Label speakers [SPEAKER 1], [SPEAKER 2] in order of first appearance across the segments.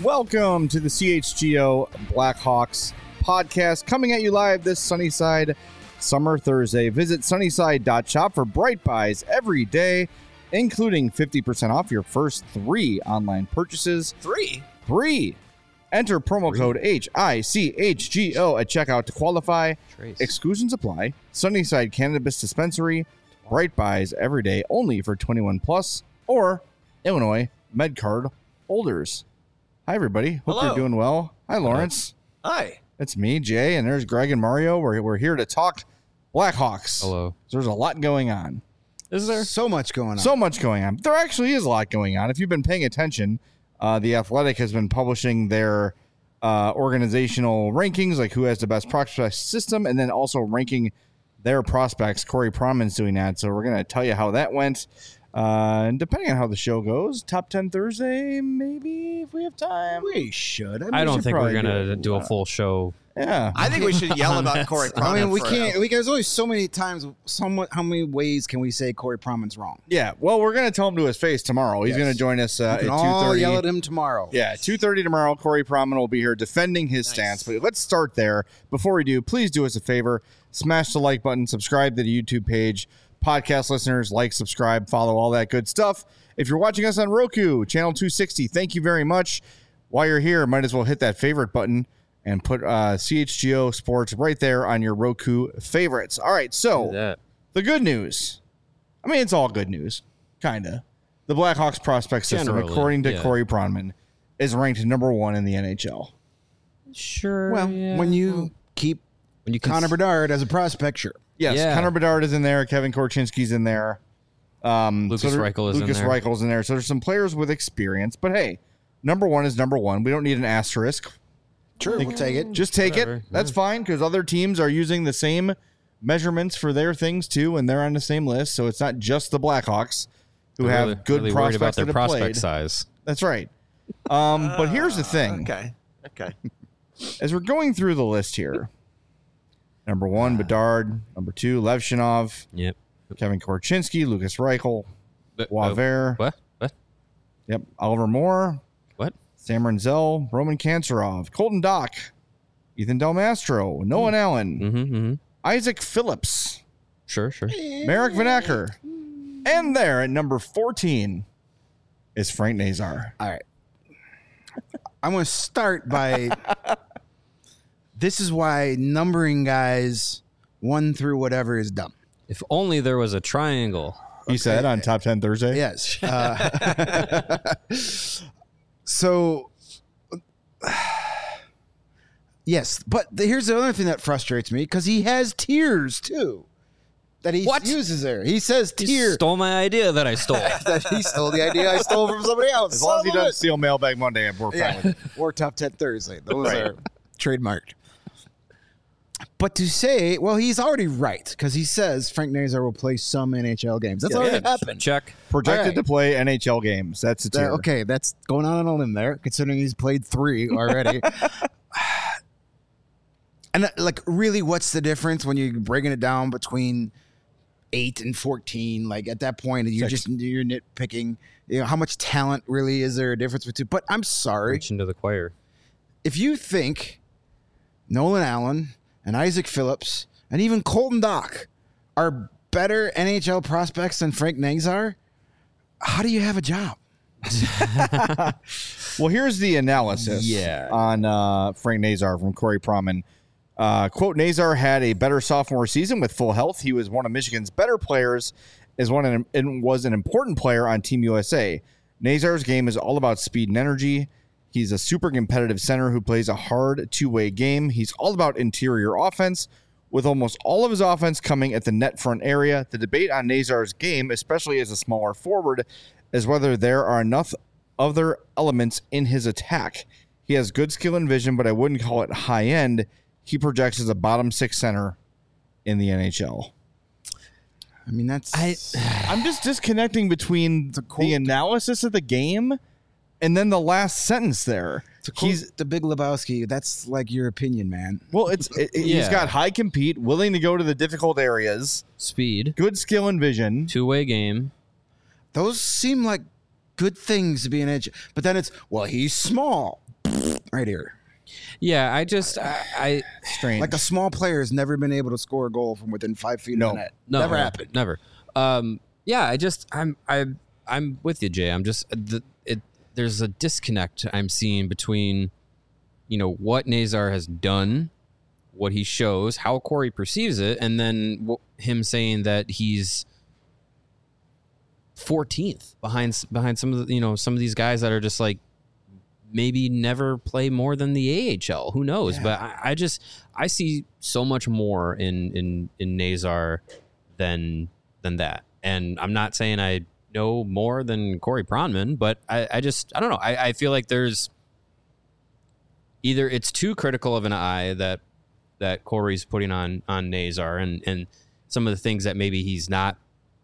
[SPEAKER 1] Welcome to the CHGO Blackhawks podcast, coming at you live this Sunnyside Summer Thursday. Visit sunnyside.shop for bright buys every day, including 50% off your first 3 online purchases.
[SPEAKER 2] 3?
[SPEAKER 1] Enter promo code HICHGO at checkout to qualify. Exclusions apply. Sunnyside Cannabis Dispensary. Bright buys every day, only for 21 plus or Illinois MedCard holders. Hi, everybody. Hope
[SPEAKER 2] Hello.
[SPEAKER 1] you're doing well. Hi, Lawrence.
[SPEAKER 2] Hi.
[SPEAKER 1] It's me, Jay, and there's Greg and Mario. We're here to talk Blackhawks.
[SPEAKER 3] Hello.
[SPEAKER 1] So there's a lot going on.
[SPEAKER 3] Is there?
[SPEAKER 4] So much going on.
[SPEAKER 1] So much going on. There actually is a lot going on. If you've been paying attention, The Athletic has been publishing their organizational rankings, like who has the best prospect system, and then also ranking their prospects. Corey Pronman's doing that, so we're going to tell you how that went. And depending on how the show goes, top 10 Thursday, maybe, if we have time.
[SPEAKER 4] We should.
[SPEAKER 3] I don't think we're
[SPEAKER 1] probably
[SPEAKER 3] going to do a
[SPEAKER 1] lot.
[SPEAKER 3] full show.
[SPEAKER 1] Yeah.
[SPEAKER 2] I think we should yell about Corey Pronman.
[SPEAKER 4] I mean, we
[SPEAKER 2] for-
[SPEAKER 4] can't. There's only so many times. How many ways can we say Corey Pronman's wrong?
[SPEAKER 1] Yeah, well, we're going to tell him to his face tomorrow. He's
[SPEAKER 4] Yes.
[SPEAKER 1] going to join us
[SPEAKER 4] We
[SPEAKER 1] at
[SPEAKER 4] can all
[SPEAKER 1] 2:30.
[SPEAKER 4] yell at him tomorrow.
[SPEAKER 1] Yeah, 2:30 tomorrow. Corey Pronman will be here defending his stance. But let's start there. Before we do, please do us a favor. Smash the like button. Subscribe to the YouTube page. Podcast listeners, like, subscribe, follow, all that good stuff. If you're watching us on Roku, channel 260, thank you very much. While you're here, might as well hit that favorite button and put CHGO Sports right there on your Roku favorites. All right, so the good news. I mean, it's all good news, kind of. The Blackhawks prospect system,
[SPEAKER 3] Generally,
[SPEAKER 1] according to
[SPEAKER 3] yeah.
[SPEAKER 1] Corey Pronman, is ranked number 1 in the NHL.
[SPEAKER 3] Sure.
[SPEAKER 4] Well, when you keep Connor Bedard as a prospect, sure.
[SPEAKER 1] Yes,
[SPEAKER 3] Yeah.
[SPEAKER 1] Connor Bedard is in there. Kevin Korchinski's in there.
[SPEAKER 3] Lucas Reichel is in there.
[SPEAKER 1] Lucas Reichel's in there. So there's some players with experience. But hey, number 1 is number 1. We don't need an asterisk.
[SPEAKER 4] Sure, we'll take it.
[SPEAKER 1] Just take
[SPEAKER 3] Whatever.
[SPEAKER 1] it. That's fine because other teams are using the same measurements for their things too, and they're on the same list. So it's not just the Blackhawks who
[SPEAKER 3] They're
[SPEAKER 1] have good
[SPEAKER 3] really worried about
[SPEAKER 1] prospects
[SPEAKER 3] their
[SPEAKER 1] that have
[SPEAKER 3] prospect
[SPEAKER 1] played.
[SPEAKER 3] size.
[SPEAKER 1] That's right. But here's the thing.
[SPEAKER 2] Okay.
[SPEAKER 1] As we're going through the list here, number 1, Bedard. Number 2, Levshinov.
[SPEAKER 3] Yep.
[SPEAKER 1] Kevin Korchinski, Lucas Reichel, Waver.
[SPEAKER 3] What?
[SPEAKER 1] Yep. Oliver Moore,
[SPEAKER 3] What?
[SPEAKER 1] Sam Renzel, Roman Kanserov, Colton Dock, Ethan Del Mastro, Nolan Allen,
[SPEAKER 3] Mm-hmm.
[SPEAKER 1] Isaac Phillips,
[SPEAKER 3] Sure.
[SPEAKER 1] Marek Vanacker. And there at number 14 is Frank Nazar.
[SPEAKER 4] All right. I'm going to start by. This is why numbering guys 1 through whatever is dumb.
[SPEAKER 3] If only there was a triangle.
[SPEAKER 1] He said on Top 10 Thursday.
[SPEAKER 4] Yes. So, yes, but here's the other thing that frustrates me because he has tiers too that he
[SPEAKER 3] What?
[SPEAKER 4] uses there. He says
[SPEAKER 3] You
[SPEAKER 4] tier.
[SPEAKER 3] stole my idea that I stole.
[SPEAKER 4] That he stole the idea I stole from somebody else.
[SPEAKER 1] As long as he
[SPEAKER 4] Son of
[SPEAKER 1] doesn't steal Mailbag Monday, we're fine with it.
[SPEAKER 4] or Top 10 Thursday. Those
[SPEAKER 1] Right.
[SPEAKER 4] are trademarked. But to say, well, he's already right because he says Frank Nazar will play some NHL games. That's already happened.
[SPEAKER 3] Check.
[SPEAKER 1] Projected
[SPEAKER 4] All right.
[SPEAKER 1] to play NHL games. That's a tier.
[SPEAKER 4] Okay, that's going on a limb there, considering he's played 3 already. And like, really, what's the difference when you're breaking it down between 8 and 14? Like at that point, you're nitpicking. You know, how much talent really is there a difference between? But I'm sorry,
[SPEAKER 3] Reach into the choir.
[SPEAKER 4] if you think Nolan Allen and Isaac Phillips and even Colton Dock are better NHL prospects than Frank Nazar, how do you have a job?
[SPEAKER 1] Well, here's the analysis
[SPEAKER 3] Yeah.
[SPEAKER 1] on Frank Nazar from Corey Pronman. Quote, Nazar had a better sophomore season with full health. He was one of Michigan's better players and was an important player on Team USA. Nazar's game is all about speed and energy. He's a super competitive center who plays a hard two-way game. He's all about interior offense, with almost all of his offense coming at the net front area. The debate on Nazar's game, especially as a smaller forward, is whether there are enough other elements in his attack. He has good skill and vision, but I wouldn't call it high-end. He projects as a bottom 6 center in the NHL.
[SPEAKER 4] I mean, that's
[SPEAKER 1] I'm just disconnecting between the analysis of the game and then the last sentence there.
[SPEAKER 4] he's the Big Lebowski. That's like your opinion, man.
[SPEAKER 1] Well, he's
[SPEAKER 3] Yeah.
[SPEAKER 1] got high compete, willing to go to the difficult areas,
[SPEAKER 3] Speed.
[SPEAKER 1] good skill and vision.
[SPEAKER 3] Two-way game.
[SPEAKER 4] Those seem like good things to be an edge, but then it's, well, he's small. right here.
[SPEAKER 3] Yeah, I
[SPEAKER 1] Strange.
[SPEAKER 4] Like a small player has never been able to score a goal from within 5 feet
[SPEAKER 1] No.
[SPEAKER 4] of the net.
[SPEAKER 3] no,
[SPEAKER 4] Never happened.
[SPEAKER 3] Never. Yeah, I'm with you, Jay. I'm just there's a disconnect I'm seeing between, what Nazar has done, what he shows, how Corey perceives it, and then him saying that he's 14th behind some of the, some of these guys that are just like maybe never play more than the AHL. Who knows?
[SPEAKER 4] Yeah.
[SPEAKER 3] But I see so much more in Nazar than that. And I'm not saying I know more than Corey Pronman, but I don't know. I feel like there's either it's too critical of an eye that Corey's putting on Nazar and some of the things that maybe he's not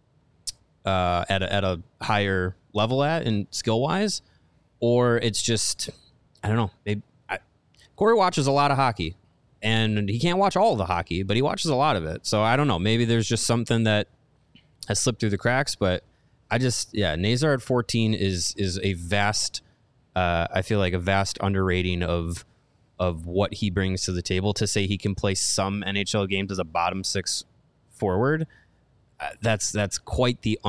[SPEAKER 3] at a higher level at and skill wise, or it's just, I don't know. Corey watches a lot of hockey, and he can't watch all the hockey, but he watches a lot of it. So I don't know. Maybe there's just something that has slipped through the cracks, but Nazar at 14 is a vast, I feel like a vast underrating of what he brings to the table. To say he can play some NHL games as a bottom six forward, that's quite the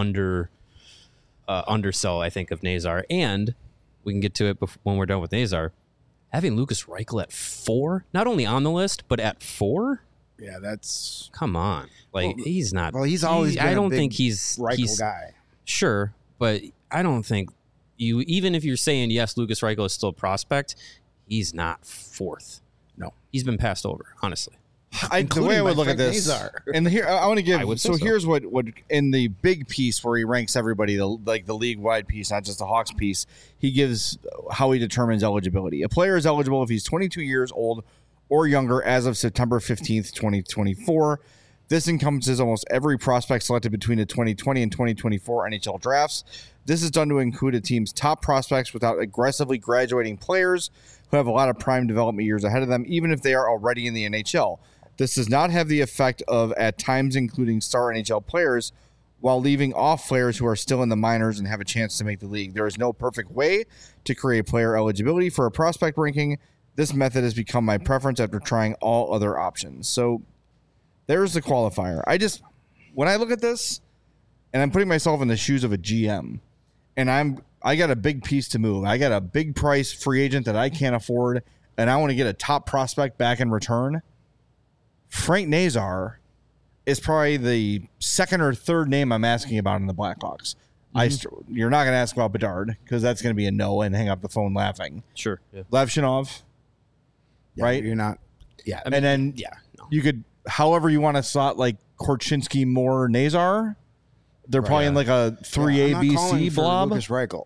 [SPEAKER 3] undersell, I think, of Nazar. And we can get to it when we're done with Nazar. Having Lukas Reichel at 4, not only on the list, but at 4.
[SPEAKER 4] Yeah, that's...
[SPEAKER 3] Come on, he's not.
[SPEAKER 4] Well, he's always been
[SPEAKER 3] I don't
[SPEAKER 4] a big
[SPEAKER 3] think he's
[SPEAKER 4] Reichel guy.
[SPEAKER 3] Sure, but I don't think even if you're saying yes, Lukas Reichel is still a prospect, he's not 4th.
[SPEAKER 4] No,
[SPEAKER 3] he's been passed over, honestly.
[SPEAKER 1] The way I would look
[SPEAKER 4] Frank
[SPEAKER 1] at this,
[SPEAKER 4] Nazar.
[SPEAKER 1] and here I want to give.
[SPEAKER 3] say so.
[SPEAKER 1] Here's what in the big piece where he ranks everybody, the league wide piece, not just the Hawks piece. He gives how he determines eligibility. A player is eligible if he's 22 years old or younger as of September 15th, 2024. This encompasses almost every prospect selected between the 2020 and 2024 NHL drafts. This is done to include a team's top prospects without aggressively graduating players who have a lot of prime development years ahead of them, even if they are already in the NHL. This does not have the effect of, at times, including star NHL players while leaving off players who are still in the minors and have a chance to make the league. There is no perfect way to create player eligibility for a prospect ranking. This method has become my preference after trying all other options. So there's the qualifier. When I look at this, and I'm putting myself in the shoes of a GM, and I got a big piece to move. I got a big price free agent that I can't afford, and I want to get a top prospect back in return. Frank Nazar is probably the second or third name I'm asking about in the Blackhawks. Mm-hmm. You're not going to ask about Bedard because that's going to be a no and hang up the phone laughing.
[SPEAKER 3] Sure. Yeah.
[SPEAKER 1] Levshinov, right?
[SPEAKER 4] You're not. Yeah.
[SPEAKER 1] And then you could, however you want to slot like Korchinski, Moore, Nazar. They're probably in like a 3A, BC blob.
[SPEAKER 4] Lukas Reichel.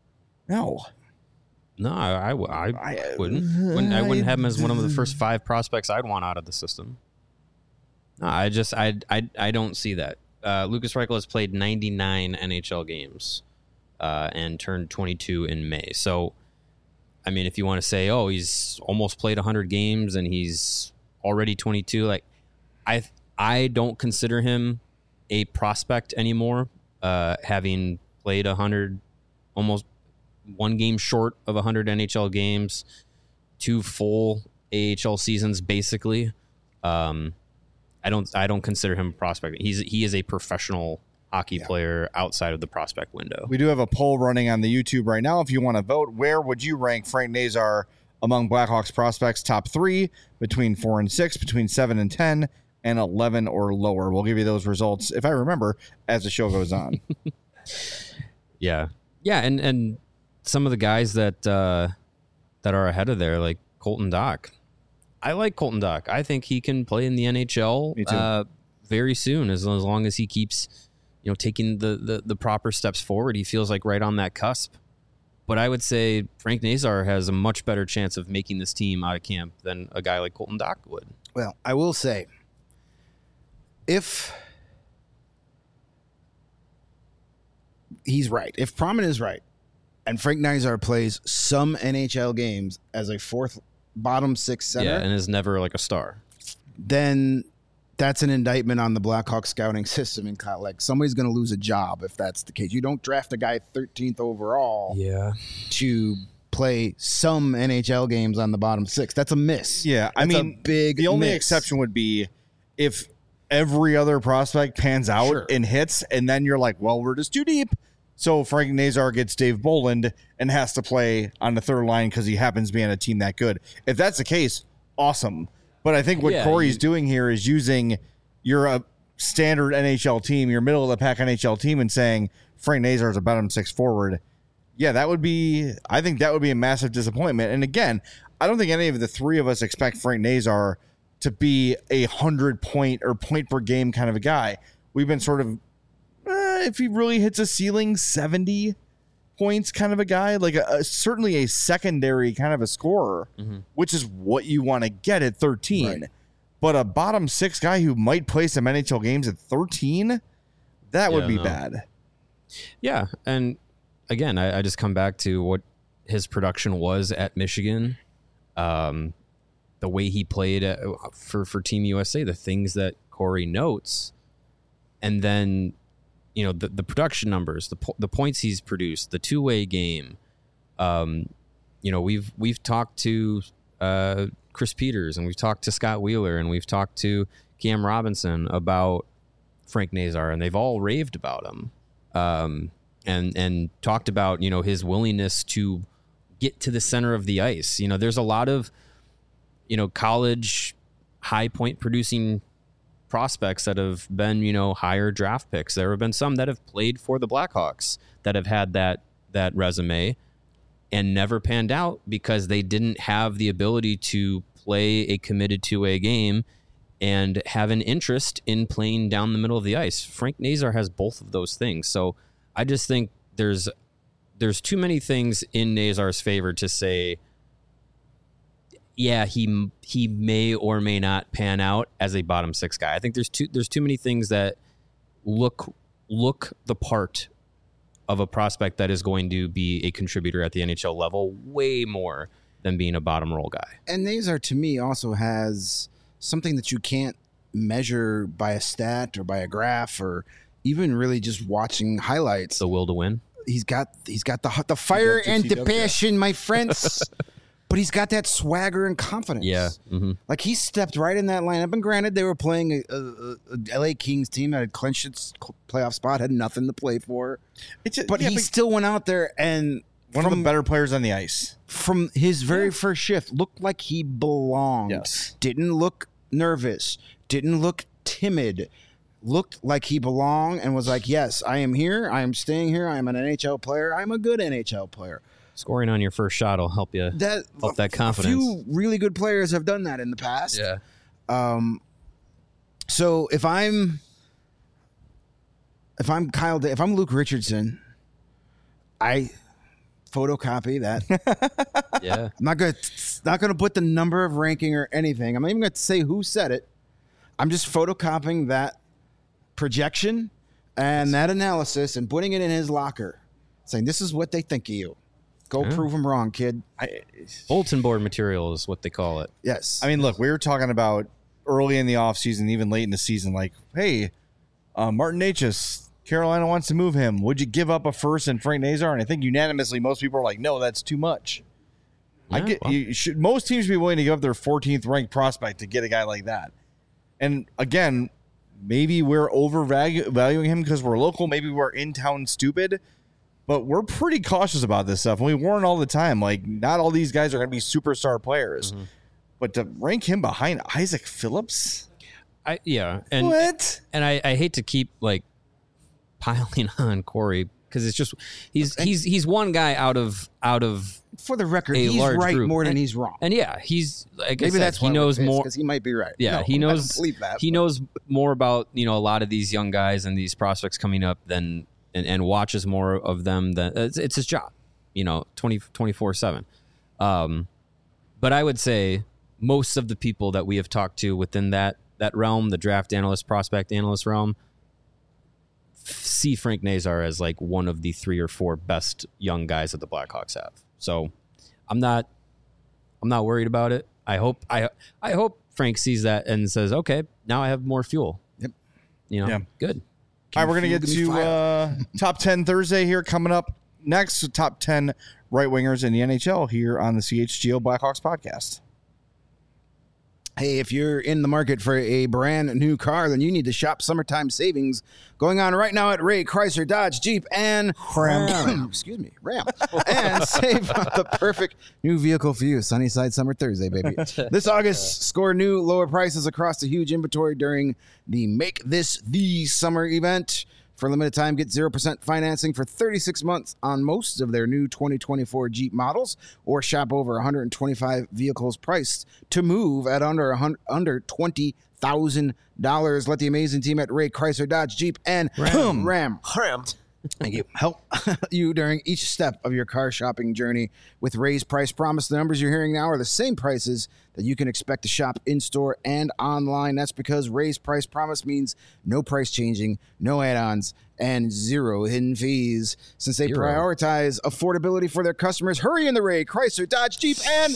[SPEAKER 1] No.
[SPEAKER 3] No, I wouldn't. I wouldn't have him as one of the first 5 prospects I'd want out of the system. No, I don't see that. Lukas Reichel has played 99 NHL games and turned 22 in May. So, I mean, if you want to say, oh, he's almost played 100 games and he's already 22, like I don't consider him a prospect anymore, having played 100, almost one game short of 100 NHL games, 2 full AHL seasons, basically. I don't consider him a prospect. He is a professional hockey player outside of the prospect window.
[SPEAKER 1] We do have a poll running on the YouTube right now. If you want to vote, where would you rank Frank Nazar among Blackhawks prospects? Top 3, between 4 and 6, between 7 and 10, and 11 or lower. We'll give you those results, if I remember, as the show goes on.
[SPEAKER 3] Yeah, and some of the guys that are ahead of there, like Colton Dach. I like Colton Dach. I think he can play in the NHL very soon, as long as he keeps, taking the proper steps forward. He feels like right on that cusp. But I would say Frank Nazar has a much better chance of making this team out of camp than a guy like Colton Dach would.
[SPEAKER 4] Well, I will say, if he's right, if Pronman is right, and Frank Nazar plays some NHL games as a 4th bottom 6 center,
[SPEAKER 3] and is never like a star,
[SPEAKER 4] then that's an indictment on the Blackhawks scouting system. And like somebody's going to lose a job if that's the case. You don't draft a guy 13th overall, to play some NHL games on the bottom six. That's a miss.
[SPEAKER 1] Yeah, I
[SPEAKER 4] That's a
[SPEAKER 1] mean,
[SPEAKER 4] big
[SPEAKER 1] the only
[SPEAKER 4] miss.
[SPEAKER 1] exception would be if every other prospect pans out
[SPEAKER 4] Sure.
[SPEAKER 1] and hits, and then you're like, well, we're just too deep. So Frank Nazar gets Dave Boland and has to play on the third line because he happens to be on a team that good. If that's the case, awesome. But I think what Corey's doing here is using you're a standard NHL team, your middle of the pack NHL team, and saying Frank Nazar is a bottom six forward. Yeah, I think that would be a massive disappointment. And again, I don't think any of the three of us expect Frank Nazar to be a 100-point or point per game kind of a guy. We've been sort of, if he really hits a ceiling, 70 points kind of a guy, like certainly a secondary kind of a scorer, which is what you want to get at 13.
[SPEAKER 4] Right.
[SPEAKER 1] But a bottom six guy who might play some NHL games at 13, that would be bad.
[SPEAKER 3] Yeah, and again, I just come back to what his production was at Michigan. The way he played for Team USA, the things that Corey notes, and then the production numbers, the points he's produced, the two-way game. We've talked to Chris Peters, and we've talked to Scott Wheeler, and we've talked to Cam Robinson about Frank Nazar, and they've all raved about him, and talked about his willingness to get to the center of the ice. There's a lot of college high point producing prospects that have been, higher draft picks. There have been some that have played for the Blackhawks that have had that resume and never panned out because they didn't have the ability to play a committed two-way game and have an interest in playing down the middle of the ice. Frank Nazar has both of those things. So I just think there's too many things in Nazar's favor to say, yeah, he may or may not pan out as a bottom six guy. I think there's too many things that look the part of a prospect that is going to be a contributor at the NHL level way more than being a bottom roll guy.
[SPEAKER 4] And Nazar, to me, also has something that you can't measure by a stat or by a graph or even really just watching highlights.
[SPEAKER 3] The will to win.
[SPEAKER 4] He's got the fire and the passion, my friends. But he's got that swagger and confidence.
[SPEAKER 3] Yeah. Mm-hmm.
[SPEAKER 4] Like he stepped right in that lineup. And granted, they were playing a LA Kings team that had clinched its playoff spot, had nothing to play for. But he still went out there and
[SPEAKER 1] one of the better players on the ice.
[SPEAKER 4] From his very first shift, looked like he belonged.
[SPEAKER 1] Yes.
[SPEAKER 4] Didn't look nervous. Didn't look timid. Looked like he belonged and was like, yes, I am here. I am staying here. I am an NHL player. I'm a good NHL player.
[SPEAKER 3] Scoring on your first shot will help you help that confidence.
[SPEAKER 4] A few really good players have done that in the past.
[SPEAKER 3] Yeah.
[SPEAKER 4] So if I'm if I'm Luke Richardson, I photocopy that.
[SPEAKER 3] Yeah.
[SPEAKER 4] I'm not gonna put the number of ranking or anything. I'm not even gonna say who said it. I'm just photocopying that projection and that analysis and putting it in his locker, saying this is what they think of you. Go prove them wrong, kid.
[SPEAKER 3] Bulletin board material is what they call it.
[SPEAKER 4] Yes.
[SPEAKER 1] I mean, look, we were talking about early in the offseason, even late in the season, like, hey, Martin Necas, Carolina wants to move him. Would you give up a first and Frank Nazar? And I think unanimously most people are like, no, that's too much.
[SPEAKER 3] Yeah,
[SPEAKER 1] most teams should be willing to give up their 14th ranked prospect to get a guy like that. And again, maybe we're overvaluing him because we're local. Maybe we're in town stupid. But we're pretty cautious about this stuff. And we warn all the time, like, not all these guys are going to be superstar players. Mm-hmm. But to rank him behind Isaac Phillips?
[SPEAKER 3] And
[SPEAKER 1] what?
[SPEAKER 3] And I hate to keep, like, piling on Corey because it's just he's one guy out of
[SPEAKER 4] for the record, he's right
[SPEAKER 3] group.
[SPEAKER 4] More than he's wrong.
[SPEAKER 3] And yeah, he's like
[SPEAKER 4] maybe that's
[SPEAKER 3] he knows more
[SPEAKER 4] because he might be right.
[SPEAKER 3] Yeah,
[SPEAKER 4] no,
[SPEAKER 3] he knows.
[SPEAKER 4] I don't believe that,
[SPEAKER 3] he knows more about a lot of these young guys and these prospects coming up than. And watches more of them than it's his job, 24/7. But I would say most of the people that we have talked to within that realm, the draft analyst, prospect analyst realm, see Frank Nazar as like one of the 3 or 4 best young guys that the Blackhawks have. So I'm not worried about it. I hope Frank sees that and says, okay, now I have more fuel.
[SPEAKER 4] Yep.
[SPEAKER 3] Good.
[SPEAKER 1] All right, we're going to get to Top 10 Thursday here coming up next. Top 10 right wingers in the NHL here on the CHGO Blackhawks podcast.
[SPEAKER 4] Hey, if you're in the market for a brand new car, then you need to shop summertime savings going on right now at Ray Chrysler Dodge Jeep and Ram. Ram. And save on the perfect new vehicle for you. Sunnyside Summer Thursday, baby. This August, score new lower prices across the huge inventory during the Make This the Summer event. For a limited time, get 0% financing for 36 months on most of their new 2024 Jeep models, or shop over 125 vehicles priced to move at under $20,000. Let the amazing team at Ray Chrysler Dodge Jeep and Ram. Thank you. Help you during each step of your car shopping journey with Ray's Price Promise. The numbers you're hearing now are the same prices that you can expect to shop in-store and online. That's because Ray's Price Promise means no price changing, no add-ons, and zero hidden fees. Since they prioritize affordability for their customers, hurry in the Ray Chrysler Dodge Jeep and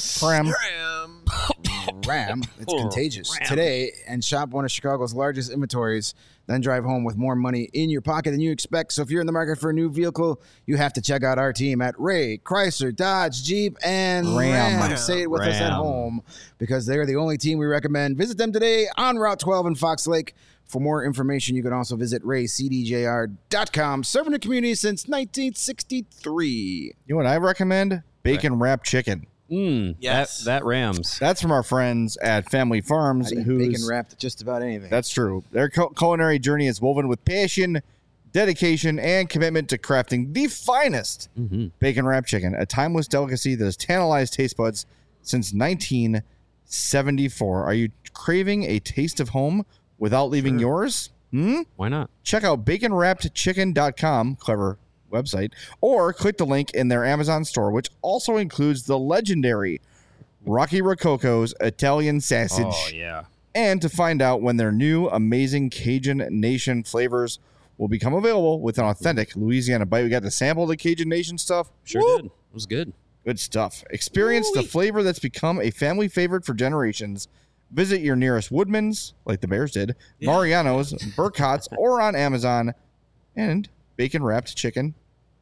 [SPEAKER 4] Ram. It's contagious. Today, and shop one of Chicago's largest inventories, then drive home with more money in your pocket than you expect. So if you're in the market for a new vehicle, you have to check out our team at Ray Chrysler Dodge Jeep and Ram. Say it with us at home, because they're the only team we recommend. Visit them today on Route 12 in Fox Lake. For more information, you can also visit raycdjr.com. Serving the community since 1963.
[SPEAKER 1] You know what I recommend? Bacon wrapped chicken.
[SPEAKER 2] Yes.
[SPEAKER 3] That Rams.
[SPEAKER 1] That's from our friends at Family Farms.
[SPEAKER 4] Bacon wrapped just about anything.
[SPEAKER 1] That's true. Their culinary journey is woven with passion, dedication, and commitment to crafting the finest bacon wrapped chicken, a timeless delicacy that has tantalized taste buds since 1974. Are you craving a taste of home without leaving yours?
[SPEAKER 3] Why not?
[SPEAKER 1] Check out baconwrappedchicken.com, clever website, or click the link in their Amazon store, which also includes the legendary Rocky Rococo's Italian sausage.
[SPEAKER 3] Oh, yeah.
[SPEAKER 1] And to find out when their new amazing Cajun Nation flavors will become available with an authentic Louisiana bite. We got to sample the Cajun Nation stuff.
[SPEAKER 3] Sure did. It was good.
[SPEAKER 1] Good stuff. Experience the flavor that's become a family favorite for generations. Visit your nearest Woodman's, like the Bears did, Mariano's, Burkhart's, or on Amazon, and baconwrappedchicken.com.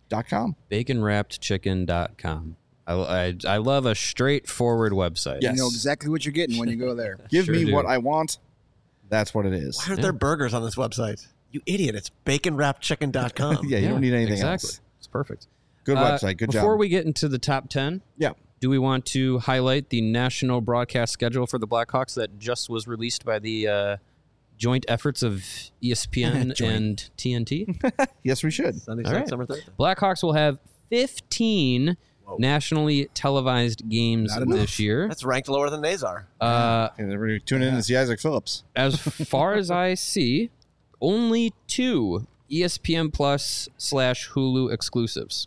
[SPEAKER 3] Baconwrappedchicken.com. I love a straightforward website.
[SPEAKER 1] Yes.
[SPEAKER 4] You know exactly what you're getting when you go there.
[SPEAKER 1] Give me what I want. That's what it is.
[SPEAKER 2] Why are there burgers on this website? You idiot. It's baconwrappedchicken.com.
[SPEAKER 1] Yeah, you don't need anything else.
[SPEAKER 3] It's perfect.
[SPEAKER 1] Good website. Good job.
[SPEAKER 3] Before we get into the top 10, do we want to highlight the national broadcast schedule for the Blackhawks that just was released by the joint efforts of ESPN and TNT?
[SPEAKER 1] Yes, we should.
[SPEAKER 2] Sunday,
[SPEAKER 3] All right.
[SPEAKER 2] Summer Thursday.
[SPEAKER 3] Blackhawks will have 15 nationally televised games this year.
[SPEAKER 2] That's ranked lower than Nazar.
[SPEAKER 1] Everybody tune in to see Isaac Phillips.
[SPEAKER 3] As far as I see, only 2 ESPN Plus / Hulu exclusives.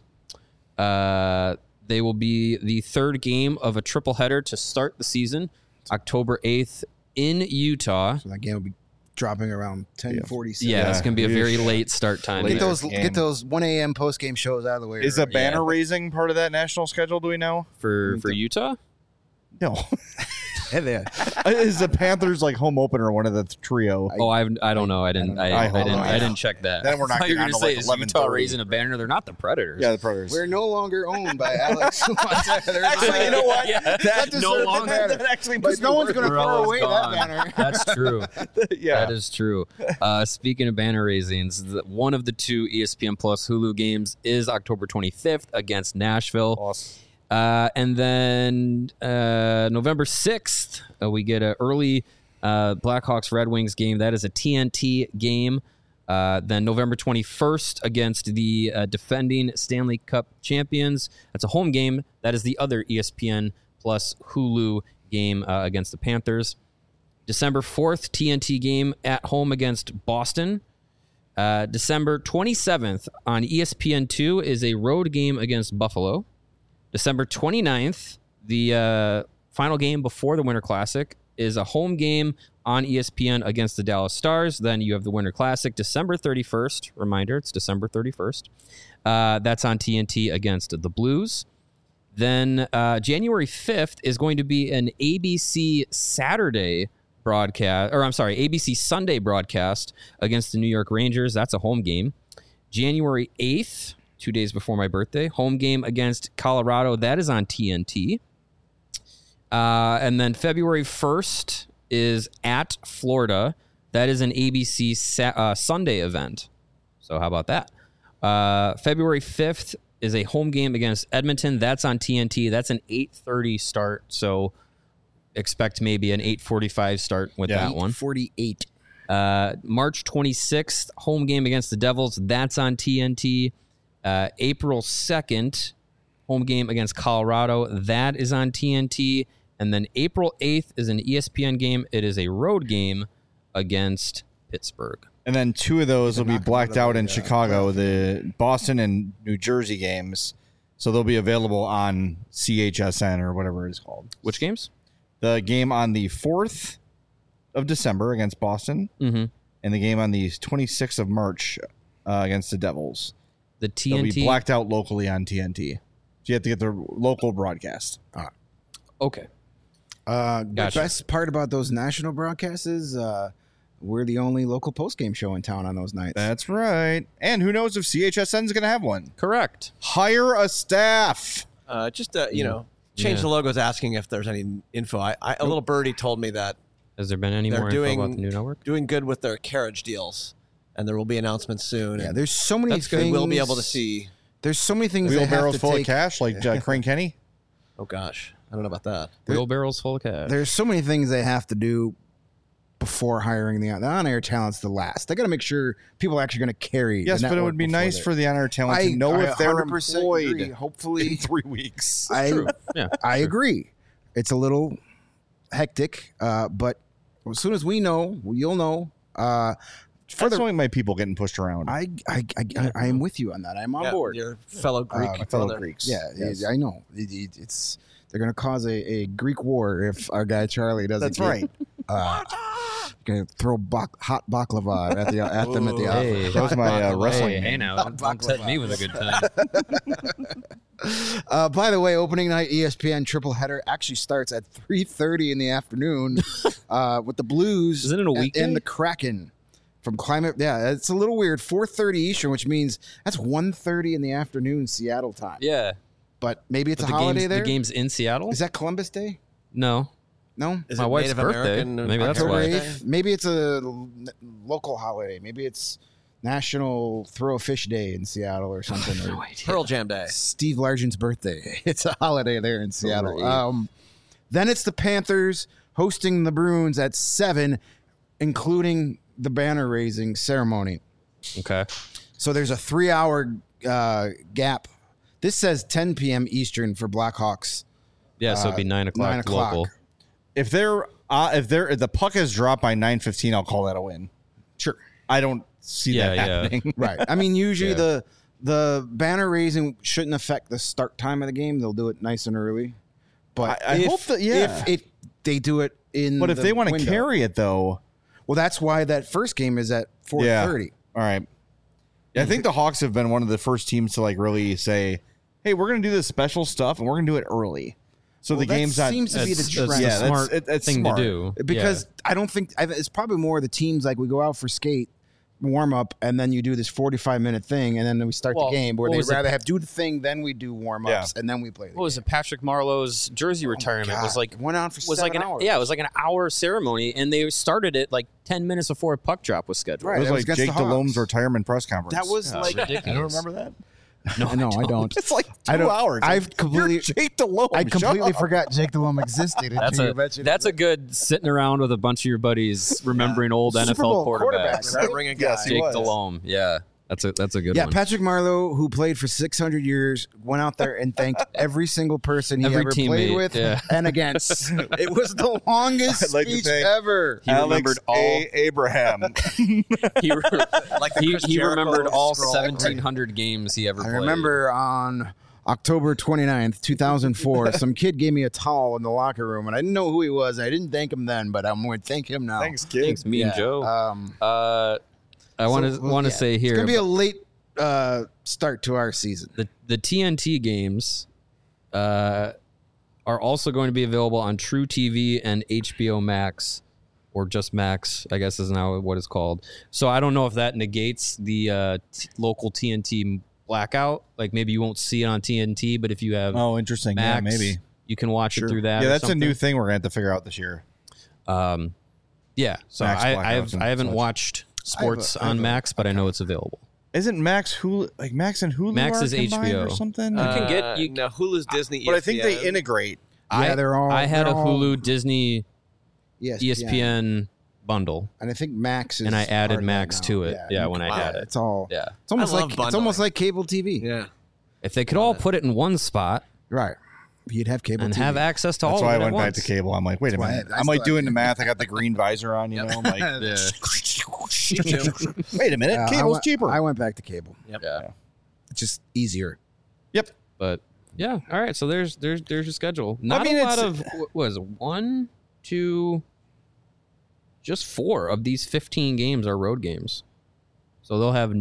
[SPEAKER 3] They will be the third game of a triple header to start the season, October 8th in Utah.
[SPEAKER 4] So that game will be dropping around 10:47.
[SPEAKER 3] Yeah, it's going to be a very late start time.
[SPEAKER 4] Get those 1 a.m. post game shows out of the way.
[SPEAKER 1] Is a banner raising part of that national schedule? Do we know?
[SPEAKER 3] For Utah?
[SPEAKER 1] No.
[SPEAKER 4] Hey there.
[SPEAKER 1] Is the Panthers like home opener one of the trio?
[SPEAKER 3] I don't know. I didn't check that.
[SPEAKER 1] Then we're not
[SPEAKER 3] going to say
[SPEAKER 1] like
[SPEAKER 3] is Utah raising a banner. They're not the Predators.
[SPEAKER 1] Yeah, the Predators.
[SPEAKER 4] We're no longer owned by Alex.
[SPEAKER 1] Actually, you know what?
[SPEAKER 3] That no longer.
[SPEAKER 1] That actually,
[SPEAKER 4] But no one's going to throw away that banner.
[SPEAKER 3] That's true.
[SPEAKER 1] Yeah,
[SPEAKER 3] that is true. Speaking of banner raisings, one of the 2 ESPN Plus Hulu games is October 25th against Nashville.
[SPEAKER 1] Awesome.
[SPEAKER 3] And then November 6th, we get an early Blackhawks Red Wings game. That is a TNT game. Then November 21st against the defending Stanley Cup champions. That's a home game. That is the other ESPN Plus Hulu game against the Panthers. December 4th, TNT game at home against Boston. December 27th on ESPN2 is a road game against Buffalo. December 29th, the final game before the Winter Classic, is a home game on ESPN against the Dallas Stars. Then you have the Winter Classic. December 31st, reminder, it's December 31st. That's on TNT against the Blues. Then January 5th is going to be an ABC Saturday broadcast, or I'm sorry, ABC Sunday broadcast against the New York Rangers. That's a home game. January 8th 2 days before my birthday. Home game against Colorado. That is on TNT. And then February 1st is at Florida. That is an ABC Sunday event. So how about that? February 5th is a home game against Edmonton. That's on TNT. That's an 8:30 start. So expect maybe an 8:45 start with that one.
[SPEAKER 4] 48.
[SPEAKER 3] March 26th, home game against the Devils. That's on TNT. April 2nd, home game against Colorado. That is on TNT. And then April 8th is an ESPN game. It is a road game against Pittsburgh.
[SPEAKER 1] And then 2 of those will be blacked out in Chicago, the Boston and New Jersey games. So they'll be available on CHSN or whatever it is called.
[SPEAKER 3] Which games?
[SPEAKER 1] The game on the 4th of December against Boston, and the game on the 26th of March against the Devils.
[SPEAKER 3] The
[SPEAKER 1] They'll be
[SPEAKER 3] TNT.
[SPEAKER 1] blacked out locally on TNT. So you have to get the local broadcast.
[SPEAKER 3] Okay.
[SPEAKER 4] The
[SPEAKER 3] Gotcha.
[SPEAKER 4] best part about those national broadcasts is we're the only local post-game show in town on those nights.
[SPEAKER 1] That's right. And who knows if CHSN is going to have one.
[SPEAKER 3] Correct.
[SPEAKER 1] Hire a staff.
[SPEAKER 2] Change
[SPEAKER 3] Yeah.
[SPEAKER 2] the logos asking if there's any info. A little birdie told me that
[SPEAKER 3] Has there been any
[SPEAKER 2] they're
[SPEAKER 3] more info about the new network?
[SPEAKER 2] doing good with their carriage deals, and there will be announcements soon.
[SPEAKER 4] Yeah,
[SPEAKER 2] and
[SPEAKER 4] there's so many
[SPEAKER 3] That's good.
[SPEAKER 4] things.
[SPEAKER 2] we'll be able to see.
[SPEAKER 4] There's so many things they have
[SPEAKER 1] Wheelbarrows
[SPEAKER 4] to
[SPEAKER 1] full
[SPEAKER 4] take.
[SPEAKER 1] of cash like Crane Kenny.
[SPEAKER 2] Oh gosh, I don't know about that.
[SPEAKER 3] Wheelbarrows full of cash.
[SPEAKER 4] There's so many things they have to do before hiring the on-air talent's the last. They got to make sure people are actually going to carry.
[SPEAKER 1] Yes,
[SPEAKER 4] the
[SPEAKER 1] but it
[SPEAKER 4] network
[SPEAKER 1] would be
[SPEAKER 4] before
[SPEAKER 1] nice
[SPEAKER 4] they-
[SPEAKER 1] for the on-air talent to know if they're
[SPEAKER 4] 100%
[SPEAKER 1] employed
[SPEAKER 4] agree. Hopefully,
[SPEAKER 1] in 3 weeks.
[SPEAKER 3] Yeah.
[SPEAKER 4] I agree. It's a little hectic, but as soon as we know, you'll know.
[SPEAKER 1] That's only my people getting pushed around.
[SPEAKER 4] I am with you on that. I'm on
[SPEAKER 2] Yeah,
[SPEAKER 4] board.
[SPEAKER 2] your fellow Greek
[SPEAKER 1] my fellow
[SPEAKER 2] brother.
[SPEAKER 1] Greeks.
[SPEAKER 4] Yeah,
[SPEAKER 1] Yes.
[SPEAKER 4] I know. It's they're going to cause a Greek war if our guy Charlie doesn't.
[SPEAKER 1] That's right.
[SPEAKER 4] Going to throw hot baklava at them at the
[SPEAKER 3] Hey,
[SPEAKER 4] office.
[SPEAKER 1] That was my wrestling.
[SPEAKER 3] Hey, now, don't tempt me with a good time.
[SPEAKER 4] By the way, opening night ESPN triple header actually starts at 3:30 in the afternoon with the Blues.
[SPEAKER 3] Isn't it a weekday?
[SPEAKER 4] And the Kraken from Climate. Yeah, it's a little weird. 4:30 Eastern, which means that's 1:30 in the afternoon Seattle time.
[SPEAKER 3] Yeah.
[SPEAKER 4] But maybe it's
[SPEAKER 3] But
[SPEAKER 4] a holiday there.
[SPEAKER 3] The game's in Seattle?
[SPEAKER 4] Is that Columbus Day?
[SPEAKER 3] No.
[SPEAKER 4] No.
[SPEAKER 2] Is
[SPEAKER 3] My
[SPEAKER 2] it
[SPEAKER 3] wife's
[SPEAKER 2] Native
[SPEAKER 3] birthday.
[SPEAKER 2] American?
[SPEAKER 3] Maybe that's
[SPEAKER 4] October
[SPEAKER 3] why.
[SPEAKER 4] 8th. Maybe it's a local holiday. Maybe it's National Throw a Fish Day in Seattle or something. or
[SPEAKER 2] Pearl Jam Day.
[SPEAKER 4] Steve Largent's birthday. It's a holiday there in Seattle.
[SPEAKER 3] Right.
[SPEAKER 4] Then it's the Panthers hosting the Bruins at 7, including the banner raising ceremony.
[SPEAKER 3] Okay.
[SPEAKER 4] So there's a 3-hour gap. This says 10 p.m. Eastern for Blackhawks.
[SPEAKER 3] Yeah, so it'd be 9 o'clock,
[SPEAKER 4] 9 o'clock.
[SPEAKER 3] local.
[SPEAKER 1] If if the puck is dropped by 9:15, I'll call that a win.
[SPEAKER 4] Sure.
[SPEAKER 1] I don't see that
[SPEAKER 3] Yeah, yeah.
[SPEAKER 1] happening.
[SPEAKER 4] Right. I mean, usually
[SPEAKER 3] Yeah.
[SPEAKER 4] the banner raising shouldn't affect the start time of the game. They'll do it nice and early. But
[SPEAKER 1] I hope that- yeah.
[SPEAKER 4] if they do it in
[SPEAKER 1] But if
[SPEAKER 4] the
[SPEAKER 1] they want to
[SPEAKER 4] window-
[SPEAKER 1] carry it, though,
[SPEAKER 4] well, that's why that first game is at 4:30.
[SPEAKER 1] all right. Yeah, I think the Hawks have been one of the first teams to like really say, "Hey, we're going to do this special stuff, and we're going to do it early." So the
[SPEAKER 4] that
[SPEAKER 1] game's not.
[SPEAKER 4] seems to be the
[SPEAKER 3] That's
[SPEAKER 4] trend.
[SPEAKER 3] a
[SPEAKER 1] Yeah, that's-
[SPEAKER 3] smart
[SPEAKER 1] it's
[SPEAKER 3] thing
[SPEAKER 1] smart.
[SPEAKER 3] to do.
[SPEAKER 4] Because I don't think it's probably more the teams like we go out for skate warm up and then you do this 45-minute thing and then we start
[SPEAKER 3] Well,
[SPEAKER 4] the game where
[SPEAKER 3] what
[SPEAKER 4] they'd
[SPEAKER 3] was it?
[SPEAKER 4] rather have do the thing then we do warm ups and then we play the
[SPEAKER 3] What was
[SPEAKER 4] game.
[SPEAKER 3] it? Patrick Marlowe's jersey retirement was
[SPEAKER 4] God,
[SPEAKER 3] like
[SPEAKER 4] it went on for
[SPEAKER 3] was
[SPEAKER 4] 7
[SPEAKER 3] like an
[SPEAKER 4] hours.
[SPEAKER 3] yeah, it was like an hour ceremony, and they started it like 10 minutes before a puck drop was scheduled.
[SPEAKER 4] Right.
[SPEAKER 1] It was
[SPEAKER 4] That was
[SPEAKER 1] like
[SPEAKER 4] against
[SPEAKER 1] Jake
[SPEAKER 4] the Hawks.
[SPEAKER 1] Delhomme's retirement press conference.
[SPEAKER 4] That was like
[SPEAKER 3] ridiculous.
[SPEAKER 1] You don't remember that?
[SPEAKER 4] no, I don't.
[SPEAKER 1] It's like 2
[SPEAKER 4] I don't-
[SPEAKER 1] hours.
[SPEAKER 4] I've completely-
[SPEAKER 1] You're Jake Delhomme.
[SPEAKER 4] I
[SPEAKER 1] Shut
[SPEAKER 4] completely
[SPEAKER 1] up.
[SPEAKER 4] forgot Jake Delhomme existed.
[SPEAKER 3] That's a good sitting around with a bunch of your buddies remembering old
[SPEAKER 4] Super
[SPEAKER 3] NFL
[SPEAKER 4] Bowl
[SPEAKER 3] quarterbacks.
[SPEAKER 4] right?
[SPEAKER 2] Ring a
[SPEAKER 1] Yes,
[SPEAKER 2] guy.
[SPEAKER 1] he
[SPEAKER 3] Jake
[SPEAKER 1] was.
[SPEAKER 3] Delhomme. Yeah. That's a good
[SPEAKER 4] Yeah,
[SPEAKER 3] one.
[SPEAKER 4] Patrick Marleau, who played for 600 years, went out there and thanked every single person he
[SPEAKER 3] Every
[SPEAKER 4] ever played
[SPEAKER 3] teammate,
[SPEAKER 4] with
[SPEAKER 3] yeah.
[SPEAKER 4] and against. It was the longest
[SPEAKER 1] I'd like to
[SPEAKER 4] speech
[SPEAKER 1] thank
[SPEAKER 4] ever.
[SPEAKER 3] He
[SPEAKER 1] Alex
[SPEAKER 3] remembered all
[SPEAKER 1] A. Abraham.
[SPEAKER 3] he,
[SPEAKER 2] Like the
[SPEAKER 3] he,
[SPEAKER 2] Chris
[SPEAKER 3] he
[SPEAKER 2] Jericho
[SPEAKER 3] remembered all
[SPEAKER 2] scroll.
[SPEAKER 3] 1700 games he ever
[SPEAKER 4] I
[SPEAKER 3] played.
[SPEAKER 4] remember on October 29th, 2004, some kid gave me a towel in the locker room, and I didn't know who he was. I didn't thank him then, but I'm going to thank him now.
[SPEAKER 1] Thanks, kid.
[SPEAKER 3] Thanks, me and
[SPEAKER 4] Yeah,
[SPEAKER 3] Joe. I
[SPEAKER 4] so,
[SPEAKER 3] want to
[SPEAKER 4] yeah,
[SPEAKER 3] say here
[SPEAKER 4] It's going to be a late start to our season.
[SPEAKER 3] the TNT games are also going to be available on True TV and HBO Max, or just Max, I guess is now what it's called. So I don't know if that negates the local TNT blackout. Like maybe you won't see it on TNT, but if you have
[SPEAKER 1] Oh, interesting.
[SPEAKER 3] Max,
[SPEAKER 1] Yeah, maybe.
[SPEAKER 3] you can watch it through that.
[SPEAKER 1] Yeah,
[SPEAKER 3] or
[SPEAKER 1] that's a new
[SPEAKER 3] something.
[SPEAKER 1] thing we're gonna have to figure out this year.
[SPEAKER 3] Yeah, so
[SPEAKER 1] Max
[SPEAKER 3] I
[SPEAKER 1] blackouts and
[SPEAKER 3] haven't
[SPEAKER 1] such.
[SPEAKER 3] watched sports
[SPEAKER 4] I have
[SPEAKER 3] on
[SPEAKER 4] a
[SPEAKER 3] Max, but I know it's available.
[SPEAKER 1] Isn't Max Hulu like Max and Hulu?
[SPEAKER 3] Max
[SPEAKER 1] are
[SPEAKER 3] is
[SPEAKER 1] combined
[SPEAKER 3] HBO.
[SPEAKER 1] or something?
[SPEAKER 3] can get- you-
[SPEAKER 5] no, Hulu's Disney,
[SPEAKER 1] but I think they
[SPEAKER 5] ESPN.
[SPEAKER 1] integrate.
[SPEAKER 4] Yeah, they're all.
[SPEAKER 3] I had a
[SPEAKER 4] they're all
[SPEAKER 3] Hulu, Disney,
[SPEAKER 4] ESPN.
[SPEAKER 3] ESPN bundle,
[SPEAKER 4] and I think Max is.
[SPEAKER 3] and I added
[SPEAKER 4] part of
[SPEAKER 3] Max
[SPEAKER 4] that
[SPEAKER 3] to
[SPEAKER 4] now.
[SPEAKER 3] it. Yeah, when I had it.
[SPEAKER 4] It's all.
[SPEAKER 3] Yeah,
[SPEAKER 4] It's almost
[SPEAKER 5] I love
[SPEAKER 4] like
[SPEAKER 5] bundling.
[SPEAKER 4] cable TV.
[SPEAKER 5] Yeah.
[SPEAKER 3] if they could all put it in one spot
[SPEAKER 4] Right. You'd have cable
[SPEAKER 3] and
[SPEAKER 4] TV.
[SPEAKER 3] have access to all
[SPEAKER 1] That's
[SPEAKER 3] of
[SPEAKER 1] why
[SPEAKER 3] it
[SPEAKER 1] I went
[SPEAKER 3] at
[SPEAKER 1] back
[SPEAKER 3] once.
[SPEAKER 1] to cable. I'm like, wait a
[SPEAKER 4] why
[SPEAKER 1] minute.
[SPEAKER 4] I
[SPEAKER 1] I'm like
[SPEAKER 4] still-
[SPEAKER 1] doing the math. I got the green visor on, you know. I'm like, wait a minute.
[SPEAKER 4] I
[SPEAKER 1] Cable's
[SPEAKER 4] went-
[SPEAKER 1] cheaper.
[SPEAKER 4] I went back to cable.
[SPEAKER 3] Yeah,
[SPEAKER 4] It's just easier.
[SPEAKER 1] Yep.
[SPEAKER 3] but yeah, all right. So there's your schedule. Not
[SPEAKER 1] mean,
[SPEAKER 3] a lot
[SPEAKER 1] it's-
[SPEAKER 3] of what was it, 1, 2, just 4 of these 15 games are road games. So they'll have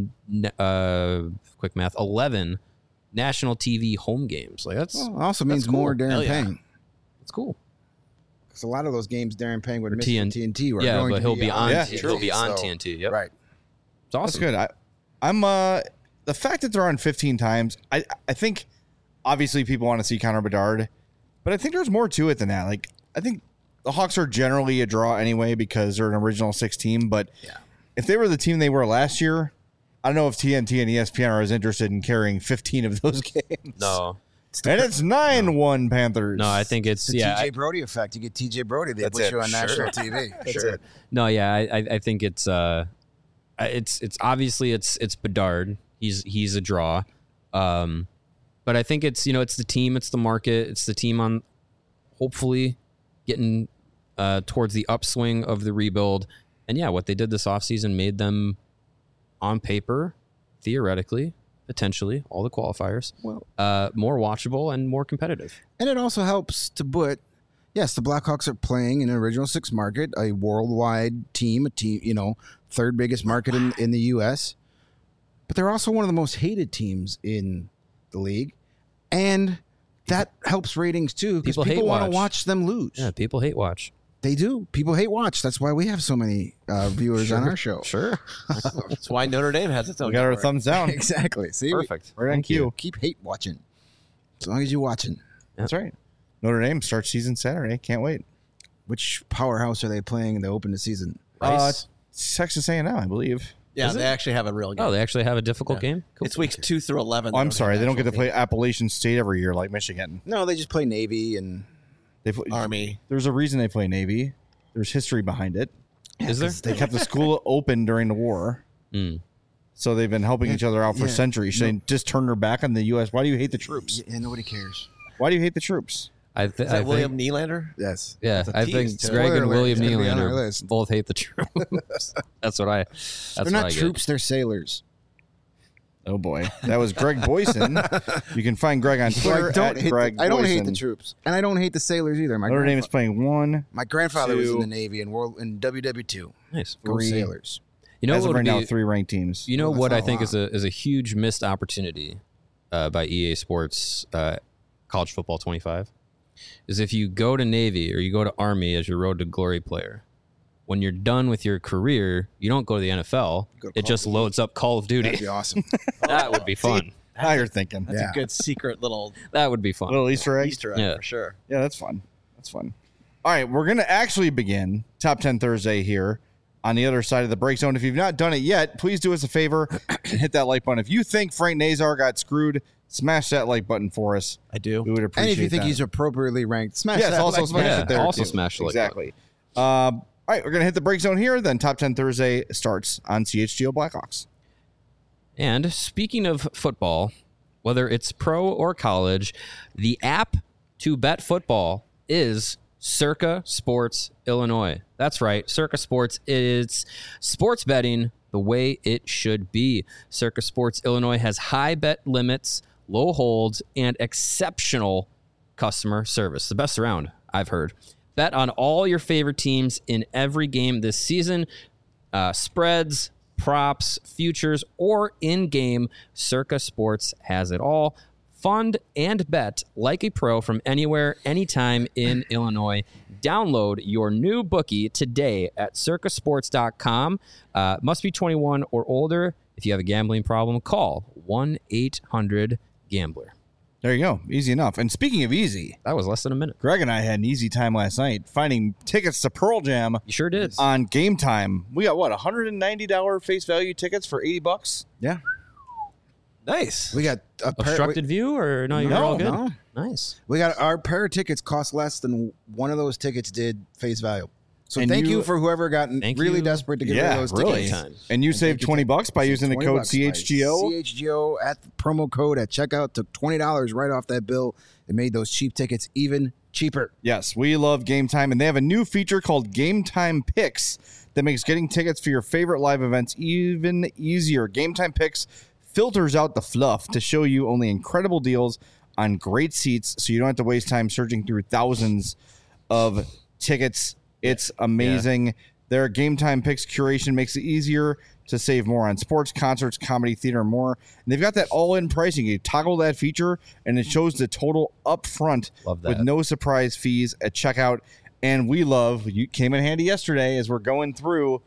[SPEAKER 3] quick math 11 national TV home games. Like that's
[SPEAKER 4] Well, it also means
[SPEAKER 3] cool.
[SPEAKER 4] more Darren
[SPEAKER 5] Hell yeah.
[SPEAKER 4] Payne.
[SPEAKER 3] that's cool.
[SPEAKER 4] Because a lot of those games Darren Payne would
[SPEAKER 3] Or
[SPEAKER 4] miss
[SPEAKER 3] TN
[SPEAKER 4] for TNT. Were
[SPEAKER 3] Yeah,
[SPEAKER 4] going
[SPEAKER 3] but
[SPEAKER 4] to
[SPEAKER 3] he'll be on.
[SPEAKER 1] Yeah,
[SPEAKER 3] He'll be on
[SPEAKER 4] so-
[SPEAKER 3] TNT. Yep,
[SPEAKER 4] Right.
[SPEAKER 3] it's awesome.
[SPEAKER 1] That's good. I'm the fact that they're on 15 times. I think obviously people want to see Connor Bedard, but I think there's more to it than that. Like I think the Hawks are generally a draw anyway because they're an original 6 team. But if they were the team they were last year, I don't know if TNT and ESPN are as interested in carrying 15 of those games.
[SPEAKER 3] No,
[SPEAKER 1] And it's 9-1 Panthers.
[SPEAKER 3] no, I think it's
[SPEAKER 4] The
[SPEAKER 3] yeah.
[SPEAKER 4] TJ Brody effect. You get TJ Brody, they
[SPEAKER 1] That's
[SPEAKER 4] put
[SPEAKER 1] it.
[SPEAKER 4] you on
[SPEAKER 1] Sure.
[SPEAKER 4] national TV. That's it.
[SPEAKER 3] No, yeah, I think it's obviously it's Bedard. He's a draw, but I think it's it's the team, it's the market, it's the team on hopefully getting towards the upswing of the rebuild, and yeah, what they did this offseason made them on paper, theoretically, potentially all the qualifiers,
[SPEAKER 4] Well-
[SPEAKER 3] more watchable and more competitive.
[SPEAKER 4] And it also helps to put, yes, the Blackhawks are playing in an original 6 market, a worldwide team, third biggest market in the U.S., but they're also one of the most hated teams in the league. And that helps ratings too, because
[SPEAKER 3] People hate
[SPEAKER 4] people want to
[SPEAKER 3] watch.
[SPEAKER 4] watch them lose.
[SPEAKER 3] Yeah, people hate watch.
[SPEAKER 4] They do. People hate watch. That's why we have so many viewers on our show.
[SPEAKER 3] Sure,
[SPEAKER 5] That's why Notre Dame has its own.
[SPEAKER 1] We got our
[SPEAKER 5] network.
[SPEAKER 1] thumbs down.
[SPEAKER 4] Exactly. See,
[SPEAKER 3] perfect.
[SPEAKER 1] Right on
[SPEAKER 3] Thank
[SPEAKER 1] cue.
[SPEAKER 3] you.
[SPEAKER 4] keep hate watching. As long as you're watching.
[SPEAKER 1] That's right. Notre Dame starts season Saturday. Can't wait.
[SPEAKER 4] Which powerhouse are they playing in the open the season?
[SPEAKER 3] Rice.
[SPEAKER 1] Texas A&M, I believe.
[SPEAKER 5] Yeah,
[SPEAKER 3] Is
[SPEAKER 5] they
[SPEAKER 3] it?
[SPEAKER 5] actually have a real game.
[SPEAKER 3] Oh, they actually have a difficult game. Cool.
[SPEAKER 5] It's weeks 2 through 11.
[SPEAKER 1] Oh, I'm sorry. They don't get to
[SPEAKER 5] actual
[SPEAKER 1] play Appalachian State every year like Michigan.
[SPEAKER 4] No, they just play Navy and
[SPEAKER 1] They play,
[SPEAKER 5] Army.
[SPEAKER 1] There's a reason they play Navy. There's history behind it.
[SPEAKER 3] Is there?
[SPEAKER 1] They kept the school open during the war.
[SPEAKER 3] Mm.
[SPEAKER 1] So they've been helping each other out for
[SPEAKER 4] Yeah.
[SPEAKER 1] centuries. Should they just turn their back on the U.S.? Why do you hate the troops?
[SPEAKER 4] yeah, nobody cares.
[SPEAKER 1] Why do you hate the troops?
[SPEAKER 5] Is that William Nylander?
[SPEAKER 4] Yes.
[SPEAKER 3] Yeah,
[SPEAKER 5] a
[SPEAKER 3] I
[SPEAKER 5] tease,
[SPEAKER 3] think
[SPEAKER 5] too.
[SPEAKER 3] Greg
[SPEAKER 4] Spoiler
[SPEAKER 3] and
[SPEAKER 4] alert,
[SPEAKER 3] William
[SPEAKER 4] it's gonna be on our
[SPEAKER 3] Nylander
[SPEAKER 4] list.
[SPEAKER 3] both hate the troops. That's what I. That's
[SPEAKER 4] They're
[SPEAKER 3] what
[SPEAKER 4] not
[SPEAKER 3] I get.
[SPEAKER 4] troops, they're sailors.
[SPEAKER 1] Oh, boy. That was Greg Boyson. You can find Greg on Twitter
[SPEAKER 4] I don't,
[SPEAKER 1] at
[SPEAKER 4] hate
[SPEAKER 1] Greg
[SPEAKER 4] the, I don't hate
[SPEAKER 1] Boyson.
[SPEAKER 4] the troops. And I don't hate the sailors either.
[SPEAKER 1] Notre Dame is playing 1.
[SPEAKER 4] My grandfather was in
[SPEAKER 1] 2.
[SPEAKER 4] the Navy and WW2.
[SPEAKER 3] Nice.
[SPEAKER 4] Go
[SPEAKER 1] 3.
[SPEAKER 4] Sailors.
[SPEAKER 3] You know
[SPEAKER 1] As
[SPEAKER 3] what
[SPEAKER 1] of
[SPEAKER 3] would
[SPEAKER 1] right now,
[SPEAKER 3] be?
[SPEAKER 1] 3 ranked teams.
[SPEAKER 3] You know
[SPEAKER 4] Well,
[SPEAKER 3] what
[SPEAKER 4] that's
[SPEAKER 3] I
[SPEAKER 4] not a
[SPEAKER 3] think
[SPEAKER 4] lot.
[SPEAKER 3] is a huge missed opportunity by EA Sports College Football 25 is if you go to Navy or you go to Army as your Road to Glory player. When you're done with your career, you don't go to the NFL.
[SPEAKER 4] go to
[SPEAKER 3] It
[SPEAKER 4] Call
[SPEAKER 3] just
[SPEAKER 4] of Duty.
[SPEAKER 3] loads up Call of
[SPEAKER 4] That'd
[SPEAKER 3] Duty.
[SPEAKER 4] be awesome.
[SPEAKER 3] That would be fun.
[SPEAKER 1] Now you're thinking.
[SPEAKER 5] That's
[SPEAKER 4] Yeah.
[SPEAKER 5] a good secret little
[SPEAKER 3] That would be fun.
[SPEAKER 1] Little Easter egg.
[SPEAKER 5] Easter egg
[SPEAKER 3] Yeah.
[SPEAKER 5] for sure.
[SPEAKER 1] Yeah, that's fun. That's fun. All right, we're going to actually begin Top 10 Thursday here on the other side of the break zone. If you've not done it yet, please do us a favor and hit that like button. If you think Frank Nazar got screwed, smash that like button for us.
[SPEAKER 5] I do.
[SPEAKER 1] We would appreciate
[SPEAKER 4] And if you think
[SPEAKER 1] that.
[SPEAKER 4] he's appropriately ranked, smash
[SPEAKER 1] Yes,
[SPEAKER 4] that.
[SPEAKER 1] also
[SPEAKER 4] like
[SPEAKER 1] smash
[SPEAKER 4] button.
[SPEAKER 1] it there.
[SPEAKER 3] Also
[SPEAKER 1] too.
[SPEAKER 3] smash the like
[SPEAKER 1] exactly. All right, we're going to hit the break zone here. Then Top 10 Thursday starts on CHGO Blackhawks.
[SPEAKER 3] And speaking of football, whether it's pro or college, the app to bet football is Circa Sports Illinois. That's right. Circa Sports is sports betting the way it should be. Circa Sports Illinois has high bet limits, low holds, and exceptional customer service. The best around, I've heard. Bet on all your favorite teams in every game this season. Spreads, props, futures, or in-game, Circa Sports has it all. Fund and bet like a pro from anywhere, anytime in Illinois. Download your new bookie today at circasports.com. Must be 21 or older. If you have a gambling problem, call 1-800-GAMBLER.
[SPEAKER 1] There you go. Easy enough. And speaking of easy,
[SPEAKER 3] That was less than a minute.
[SPEAKER 1] Greg and I had an easy time last night finding tickets to Pearl Jam
[SPEAKER 3] You sure did.
[SPEAKER 1] on Game Time. We got what, $190 face value tickets for $80?
[SPEAKER 4] Yeah.
[SPEAKER 5] Nice.
[SPEAKER 4] We got a
[SPEAKER 3] Obstructed view or no? You're all good.
[SPEAKER 4] No.
[SPEAKER 3] Nice.
[SPEAKER 4] We got our pair of tickets cost less than one of those tickets did face value. So
[SPEAKER 1] And
[SPEAKER 4] thank
[SPEAKER 1] you-
[SPEAKER 4] you for whoever got
[SPEAKER 3] Thank
[SPEAKER 4] really
[SPEAKER 3] you.
[SPEAKER 4] desperate to get rid of those
[SPEAKER 1] really.
[SPEAKER 4] tickets.
[SPEAKER 3] Time.
[SPEAKER 1] And you saved $20 by using the code
[SPEAKER 4] $20 by
[SPEAKER 1] CHGO.
[SPEAKER 4] CHGO at the promo code at checkout took $20 right off that bill. It made those cheap tickets even cheaper.
[SPEAKER 1] Yes, we love Game Time, and they have a new feature called Game Time Picks that makes getting tickets for your favorite live events even easier. Game Time Picks filters out the fluff to show you only incredible deals on great seats, so you don't have to waste time searching through thousands of tickets. It's amazing. Their Game Time Picks curation makes it easier to save more on sports, concerts, comedy, theater, and more. And they've got that all-in pricing. You toggle that feature, and it shows the total up front
[SPEAKER 3] Love
[SPEAKER 1] with
[SPEAKER 3] that.
[SPEAKER 1] no surprise fees at checkout. And we love, you came in handy yesterday as we're going through,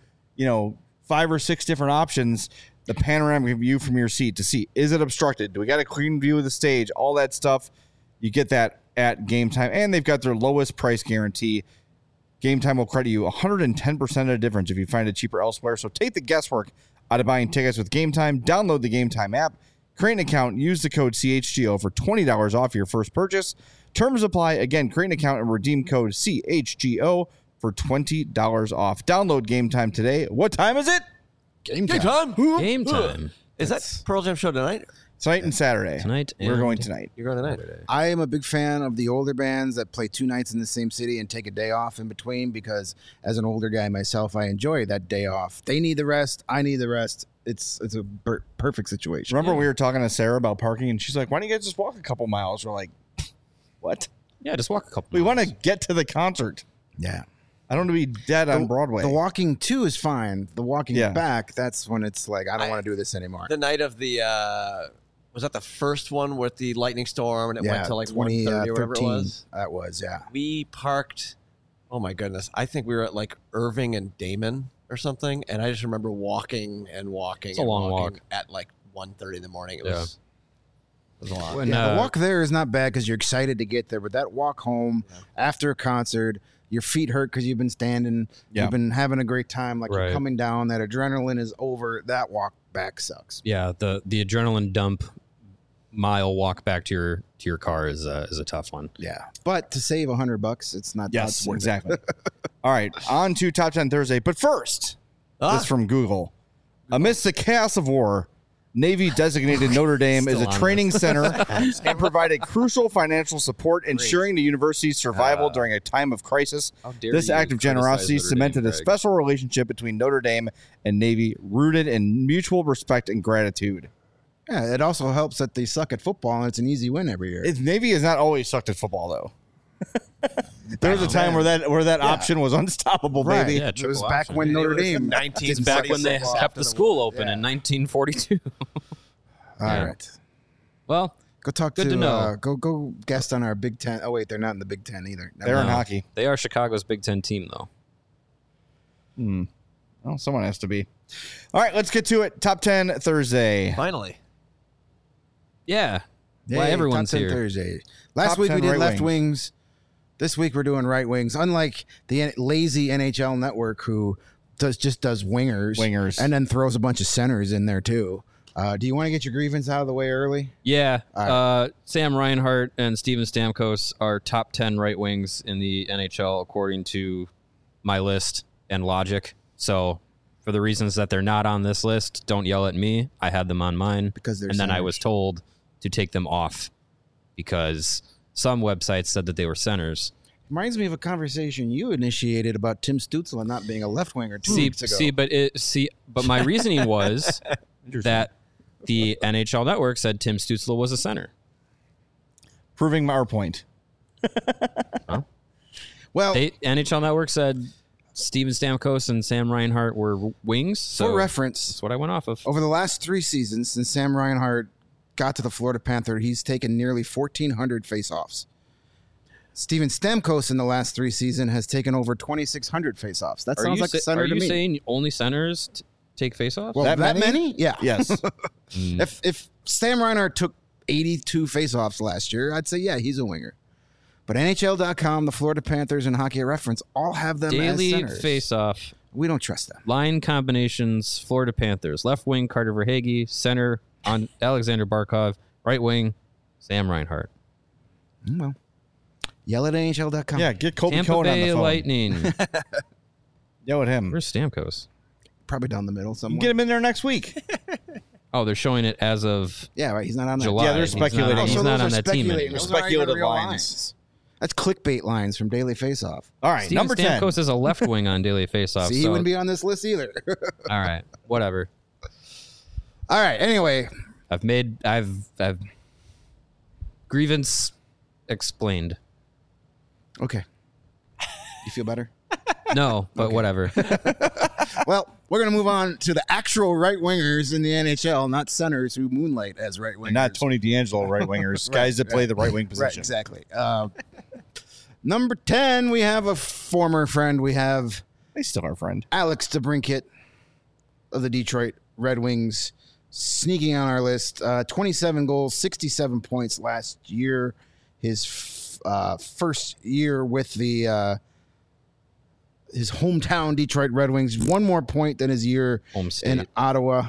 [SPEAKER 1] 5 or 6 different options, the panoramic view from your seat to see, is it obstructed? Do we got a clean view of the stage? All that stuff. You get that at Game Time. And they've got their lowest price guarantee. Game Time will credit you 110% of the difference if you find it cheaper elsewhere. So take the guesswork out of buying tickets with Game Time. Download the Game Time app, create an account, use the code CHGO for $20 off your first purchase. Terms apply. Again, create an account and redeem code CHGO for $20 off. Download Game Time today. What time is it?
[SPEAKER 4] Game
[SPEAKER 5] Game
[SPEAKER 4] time.
[SPEAKER 5] time.
[SPEAKER 3] Game time.
[SPEAKER 5] Is that Pearl Jam show tonight?
[SPEAKER 1] Tonight and Saturday.
[SPEAKER 3] Tonight
[SPEAKER 1] We're
[SPEAKER 3] and-
[SPEAKER 1] going tonight.
[SPEAKER 5] You're going tonight.
[SPEAKER 4] I am a big fan of the older bands that play 2 nights in the same city and take a day off in between because as an older guy myself, I enjoy that day off. They need the rest. I need the rest. It's a perfect situation.
[SPEAKER 1] Remember we were talking to Sarah about parking, and she's like, why don't you guys just walk a couple miles? We're like, what?
[SPEAKER 3] Yeah, just walk a couple.
[SPEAKER 1] We want
[SPEAKER 3] miles.
[SPEAKER 1] to get to the concert.
[SPEAKER 4] Yeah.
[SPEAKER 1] I don't want to be dead on Broadway.
[SPEAKER 4] The walking to is fine. The walking
[SPEAKER 1] Yeah.
[SPEAKER 4] back, that's when it's like, I don't want to do this anymore.
[SPEAKER 5] The night of the was that the first one with the lightning storm and it went to like 1:30 or whatever it
[SPEAKER 4] 13.
[SPEAKER 5] was?
[SPEAKER 4] That was, yeah.
[SPEAKER 5] We parked. Oh my goodness! I think we were at like Irving and Damon or something, and I just remember walking and walking.
[SPEAKER 3] It's a
[SPEAKER 5] and
[SPEAKER 3] long
[SPEAKER 5] walking
[SPEAKER 3] walk.
[SPEAKER 5] at like 1:30 in the morning. It
[SPEAKER 3] Yeah.
[SPEAKER 5] was. It was a lot.
[SPEAKER 3] When,
[SPEAKER 4] Yeah, the walk there is not bad because you're excited to get there, but that walk home after a concert, your feet hurt because you've been standing,
[SPEAKER 1] Yeah.
[SPEAKER 4] you've been having a great time, like
[SPEAKER 3] Right.
[SPEAKER 4] you're coming down, that adrenaline is over, that walk back sucks.
[SPEAKER 3] Yeah, the adrenaline dump mile walk back to your car is a tough one.
[SPEAKER 4] Yeah. But to save $100, it's not
[SPEAKER 1] Yes,
[SPEAKER 4] that's worth it.
[SPEAKER 1] exactly. All right, on to Top 10 Thursday. But first, this from Google. Amidst the chaos of war, Navy designated Notre Dame as a
[SPEAKER 3] Still on
[SPEAKER 1] training center and provided crucial financial support, ensuring the university's survival during a time of crisis.
[SPEAKER 3] dare
[SPEAKER 1] This
[SPEAKER 3] you
[SPEAKER 1] act of
[SPEAKER 3] criticize
[SPEAKER 1] generosity
[SPEAKER 3] Notre Dame,
[SPEAKER 1] cemented a
[SPEAKER 3] Greg.
[SPEAKER 1] special relationship between Notre Dame and Navy, rooted in mutual respect and gratitude.
[SPEAKER 4] Yeah, it also helps that they suck at football and it's an easy win every year.
[SPEAKER 1] Navy has not always sucked at football, though. There was a time where that option was unstoppable,
[SPEAKER 4] Right.
[SPEAKER 1] baby.
[SPEAKER 3] Yeah,
[SPEAKER 4] It was
[SPEAKER 3] triple
[SPEAKER 4] back
[SPEAKER 3] option.
[SPEAKER 4] when Notre
[SPEAKER 5] It was
[SPEAKER 4] Dame.
[SPEAKER 5] 1940
[SPEAKER 3] It's back when they
[SPEAKER 5] football
[SPEAKER 3] kept
[SPEAKER 5] after
[SPEAKER 3] the
[SPEAKER 5] the
[SPEAKER 3] school
[SPEAKER 5] war.
[SPEAKER 3] open in 1942.
[SPEAKER 4] All
[SPEAKER 3] Yeah.
[SPEAKER 4] right.
[SPEAKER 3] Well,
[SPEAKER 4] Go talk
[SPEAKER 3] Good to know.
[SPEAKER 4] Go guest on our Big Ten. Oh, wait, they're not in the Big Ten either. Never
[SPEAKER 1] They're in
[SPEAKER 4] mind.
[SPEAKER 1] hockey.
[SPEAKER 3] they are Chicago's Big Ten team, though.
[SPEAKER 1] Well, someone has to be. All right, let's get to it. Top 10 Thursday.
[SPEAKER 5] Finally.
[SPEAKER 3] Yeah.
[SPEAKER 4] Yay,
[SPEAKER 3] Why everyone's
[SPEAKER 4] Top 10
[SPEAKER 3] here.
[SPEAKER 4] Thursday. Last
[SPEAKER 1] Top
[SPEAKER 4] week we
[SPEAKER 1] 10
[SPEAKER 4] did
[SPEAKER 1] right
[SPEAKER 4] left
[SPEAKER 1] wings.
[SPEAKER 4] wings. This week we're doing right wings. Unlike the lazy NHL network who just does wingers. And then throws a bunch of centers in there too. Do you want to get your grievance out of the way early?
[SPEAKER 3] Yeah.
[SPEAKER 4] All
[SPEAKER 3] Sam Reinhart and Steven Stamkos are top 10 right wings in the NHL, according to my list and logic. So, for the reasons that they're not on this list, don't yell at me. I had them on mine.
[SPEAKER 4] Because they're
[SPEAKER 3] And then I
[SPEAKER 4] centers.
[SPEAKER 3] was told to take them off because some websites said that they were centers.
[SPEAKER 4] Reminds me of a conversation you initiated about Tim Stützle not being a left winger 2 weeks ago.
[SPEAKER 3] But my reasoning was that the NHL Network said Tim Stützle was a center.
[SPEAKER 1] Proving our point.
[SPEAKER 4] Well,
[SPEAKER 3] NHL Network said Steven Stamkos and Sam Reinhart were wings. So
[SPEAKER 4] for reference,
[SPEAKER 3] that's what I went off of.
[SPEAKER 4] over the last 3 seasons since Sam Reinhart got to the Florida Panther, he's taken nearly 1,400 faceoffs. Steven Stamkos in the last 3 seasons has taken over 2,600 faceoffs. That sounds like a center
[SPEAKER 3] are
[SPEAKER 4] to
[SPEAKER 3] you
[SPEAKER 4] me.
[SPEAKER 3] saying only centers take faceoffs?
[SPEAKER 4] Well,
[SPEAKER 1] That
[SPEAKER 4] that
[SPEAKER 1] many?
[SPEAKER 4] many? Yeah.
[SPEAKER 1] Yes.
[SPEAKER 4] If Sam Reinhart took 82 faceoffs last year, I'd say, yeah, he's a winger. But NHL.com, the Florida Panthers, and Hockey Reference all have them
[SPEAKER 3] Daily
[SPEAKER 4] as centers.
[SPEAKER 3] faceoff.
[SPEAKER 4] We don't trust them.
[SPEAKER 3] Line combinations, Florida Panthers. Left wing, Carter Verhaeghe. Center, on Alexander Barkov. Right wing, Sam Reinhart.
[SPEAKER 4] Well, yell at NHL.com.
[SPEAKER 1] Yeah, get Colby
[SPEAKER 3] Tampa
[SPEAKER 1] Cohen on the
[SPEAKER 3] Bay
[SPEAKER 1] phone.
[SPEAKER 3] Lightning.
[SPEAKER 1] Yell at him.
[SPEAKER 3] Where's Stamkos?
[SPEAKER 4] Probably down the middle
[SPEAKER 1] You
[SPEAKER 4] somewhere.
[SPEAKER 1] can get him in there next week.
[SPEAKER 3] Oh, they're showing it as of
[SPEAKER 4] Yeah, right. He's not on that.
[SPEAKER 3] July.
[SPEAKER 1] Yeah, they're
[SPEAKER 3] He's not-
[SPEAKER 1] speculating.
[SPEAKER 3] He's
[SPEAKER 1] Oh, so
[SPEAKER 3] not
[SPEAKER 4] those
[SPEAKER 3] on
[SPEAKER 4] are
[SPEAKER 3] that team
[SPEAKER 4] speculating.
[SPEAKER 3] anymore.
[SPEAKER 4] Those aren't even
[SPEAKER 1] Speculative
[SPEAKER 4] real
[SPEAKER 1] lines.
[SPEAKER 4] That's clickbait lines from Daily Faceoff.
[SPEAKER 1] All right,
[SPEAKER 3] Steven
[SPEAKER 1] number 10.
[SPEAKER 3] Stamkos is a left wing on Daily Faceoff.
[SPEAKER 4] See, he
[SPEAKER 3] so,
[SPEAKER 4] wouldn't be on this list either.
[SPEAKER 3] all right, whatever.
[SPEAKER 4] All right. Anyway,
[SPEAKER 3] I've grievance explained.
[SPEAKER 4] okay. You feel better?
[SPEAKER 3] No, but whatever.
[SPEAKER 4] Well, we're going to move on to the actual right wingers in the NHL, not centers who moonlight as right wingers.
[SPEAKER 1] And not Tony D'Angelo right wingers, guys that play the right wing
[SPEAKER 4] Right,
[SPEAKER 1] position.
[SPEAKER 4] exactly. Number 10, we have a former friend. We have
[SPEAKER 1] They still our friend.
[SPEAKER 4] Alex DeBrincat of the Detroit Red Wings sneaking on our list. 27 goals, 67 points last year. His first year with the his hometown Detroit Red Wings. One more point than his year
[SPEAKER 3] Home
[SPEAKER 4] in
[SPEAKER 3] state.
[SPEAKER 4] Ottawa.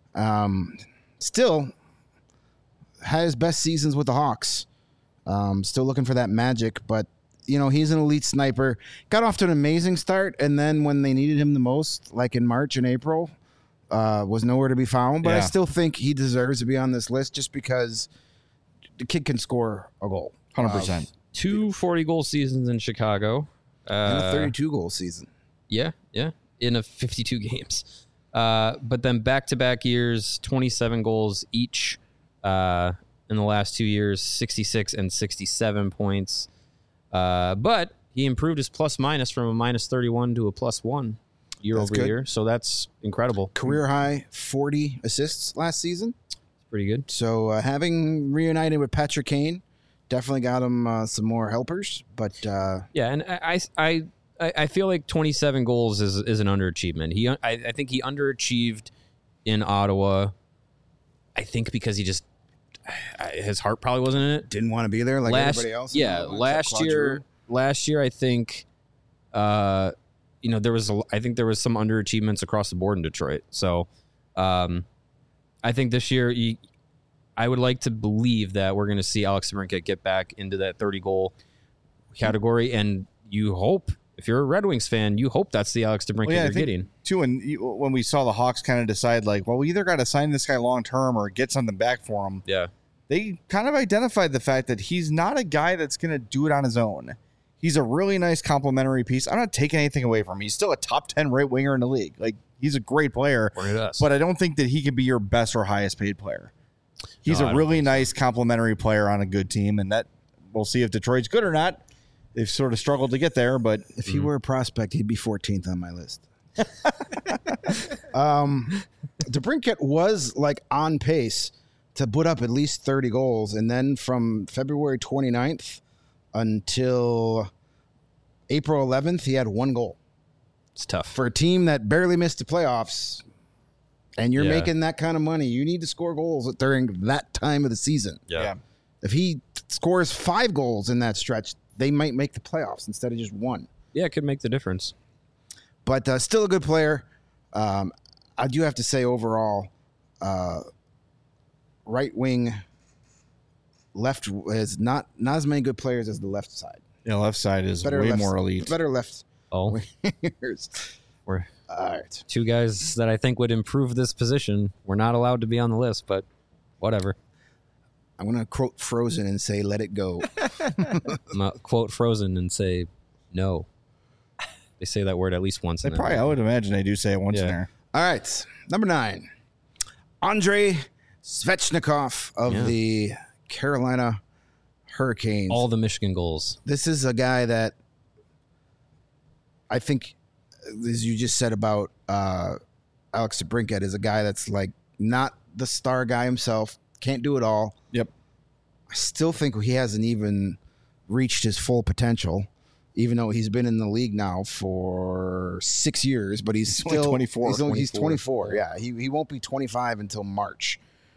[SPEAKER 4] Still has best seasons with the Hawks. Still looking for that magic, but you know, he's an elite sniper. Got off to an amazing start, and then when they needed him the most, like in March and April, was nowhere to be found. But I
[SPEAKER 1] Yeah.
[SPEAKER 4] still think he deserves to be on this list just because the kid can score a goal.
[SPEAKER 1] 100%.
[SPEAKER 3] 2 40-goal seasons in Chicago.
[SPEAKER 4] In a 32-goal season.
[SPEAKER 3] Yeah, in a 52 games. But then back-to-back years, 27 goals each in the last 2 years, 66 and 67 points. But he improved his plus-minus from a -31 to a +1 year
[SPEAKER 4] That's
[SPEAKER 3] over
[SPEAKER 4] good.
[SPEAKER 3] year. So that's incredible.
[SPEAKER 4] Career high 40 assists last season.
[SPEAKER 3] Pretty good.
[SPEAKER 4] So having reunited with Patrick Kane definitely got him some more helpers. But
[SPEAKER 3] Yeah, and I feel like 27 goals is an underachievement. I think he underachieved in Ottawa. I think because he just his heart probably wasn't in it.
[SPEAKER 4] didn't want to be there like everybody else.
[SPEAKER 3] Yeah,
[SPEAKER 4] Except
[SPEAKER 3] last
[SPEAKER 4] Claude
[SPEAKER 3] year.
[SPEAKER 4] Giroux.
[SPEAKER 3] Last year, I think, there was some underachievements across the board in Detroit. So, I think this year, I would like to believe that we're going to see Alex DeBrincat get back into that 30-goal category, and you hope, if you're a Red Wings fan, you hope that's the Alex DeBrincat
[SPEAKER 1] Well, yeah, I
[SPEAKER 3] you're
[SPEAKER 1] think,
[SPEAKER 3] getting.
[SPEAKER 1] too, and when we saw the Hawks kind of decide, like, well, we either got to sign this guy long term or get something back for him.
[SPEAKER 3] Yeah.
[SPEAKER 1] They kind of identified the fact that he's not a guy that's going to do it on his own. He's a really nice complementary piece. I'm not taking anything away from him. He's still a top 10 right winger in the league. Like, he's a great player, but I don't think that he could be your best or highest paid player. He's
[SPEAKER 3] No, I
[SPEAKER 1] a
[SPEAKER 3] don't
[SPEAKER 1] really nice complementary player on a good team, and that we'll see if Detroit's good or not. They've sort of struggled to get there, but
[SPEAKER 4] If he were a prospect, he'd be 14th on my list. DeBrincat was like on pace to put up at least 30 goals. And then from February 29th until April 11th, he had 1 goal.
[SPEAKER 3] It's tough.
[SPEAKER 4] For a team that barely missed the playoffs, and you're
[SPEAKER 3] Yeah.
[SPEAKER 4] making that kind of money, you need to score goals during that time of the season.
[SPEAKER 1] yeah.
[SPEAKER 4] If he scores 5 goals in that stretch, they might make the playoffs instead of just 1.
[SPEAKER 3] Yeah, it could make the difference.
[SPEAKER 4] But still a good player. I do have to say overall, right wing, left is not as many good players as the left side.
[SPEAKER 1] Yeah, left side is
[SPEAKER 4] Better
[SPEAKER 1] way
[SPEAKER 4] left-
[SPEAKER 1] more elite.
[SPEAKER 4] Better left
[SPEAKER 3] Oh,
[SPEAKER 4] wingers.
[SPEAKER 3] we're
[SPEAKER 4] All right.
[SPEAKER 3] 2 guys that I think would improve this position. We're not allowed to be on the list, but whatever.
[SPEAKER 4] I'm going to quote Frozen and say, let it go.
[SPEAKER 3] I'm gonna quote Frozen and say no. They say that word at least once.
[SPEAKER 1] They
[SPEAKER 3] in that
[SPEAKER 1] probably, I
[SPEAKER 3] movie.
[SPEAKER 1] would imagine they do say it once in
[SPEAKER 3] Yeah.
[SPEAKER 1] there.
[SPEAKER 4] All right. Number 9, Andrei Svechnikov of
[SPEAKER 3] Yeah.
[SPEAKER 4] the Carolina Hurricanes.
[SPEAKER 3] all the Michigan goals.
[SPEAKER 4] This is a guy that I think, as you just said about Alex DeBrincat, is a guy that's like not the star guy himself, can't do it all.
[SPEAKER 1] Yep.
[SPEAKER 4] I still think he hasn't even reached his full potential. even though he's been in the league now for 6 years, but he's
[SPEAKER 1] only
[SPEAKER 4] still
[SPEAKER 1] 24.
[SPEAKER 4] He's 24. Yeah, he won't be 25 until March.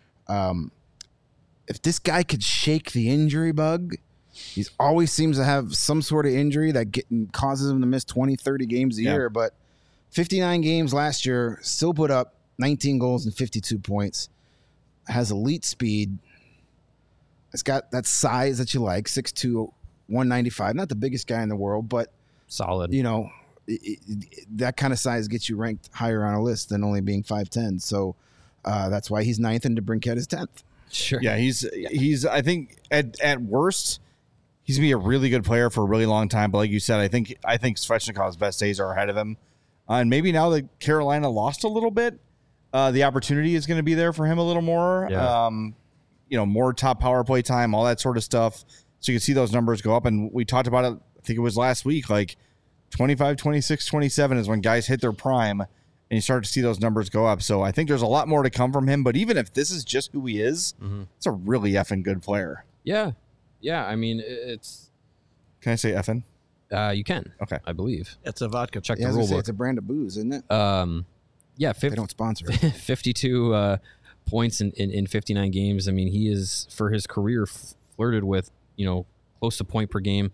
[SPEAKER 4] If this guy could shake the injury bug, he always seems to have some sort of injury that causes him to miss 20, 30 games a year. But 59 games last year, still put up 19 goals and 52 points. Has elite speed. It's got that size that you like, 6'2", 195. Not the biggest guy in the world, but
[SPEAKER 3] Solid.
[SPEAKER 4] you know, that kind of size gets you ranked higher on a list than only being 5'10". So that's why he's 9th and DeBrincat is 10th.
[SPEAKER 3] Sure.
[SPEAKER 1] Yeah, he's. I think at worst, he's gonna be a really good player for a really long time. But like you said, I think Svechnikov's best days are ahead of him, and maybe now that Carolina lost a little bit, the opportunity is going to be there for him a little more.
[SPEAKER 3] Yeah.
[SPEAKER 1] More top power play time, all that sort of stuff. So you can see those numbers go up. And we talked about it. I think it was last week. Like 25, 26, 27 is when guys hit their prime. And you start to see those numbers go up. So I think there's a lot more to come from him. But even if this is just who he is, it's a really effing good player.
[SPEAKER 3] Yeah. Yeah. I mean, it's.
[SPEAKER 1] Can I say effing?
[SPEAKER 3] You can.
[SPEAKER 1] Okay.
[SPEAKER 3] I believe.
[SPEAKER 5] It's a vodka.
[SPEAKER 3] Check
[SPEAKER 4] Yeah, I
[SPEAKER 3] the
[SPEAKER 4] was gonna
[SPEAKER 3] rule
[SPEAKER 4] say
[SPEAKER 3] book.
[SPEAKER 4] it's a brand of booze, isn't it?
[SPEAKER 3] Yeah.
[SPEAKER 4] They don't sponsor it.
[SPEAKER 3] 52 points in 59 games. I mean, he is, for his career, flirted with, close to point per game,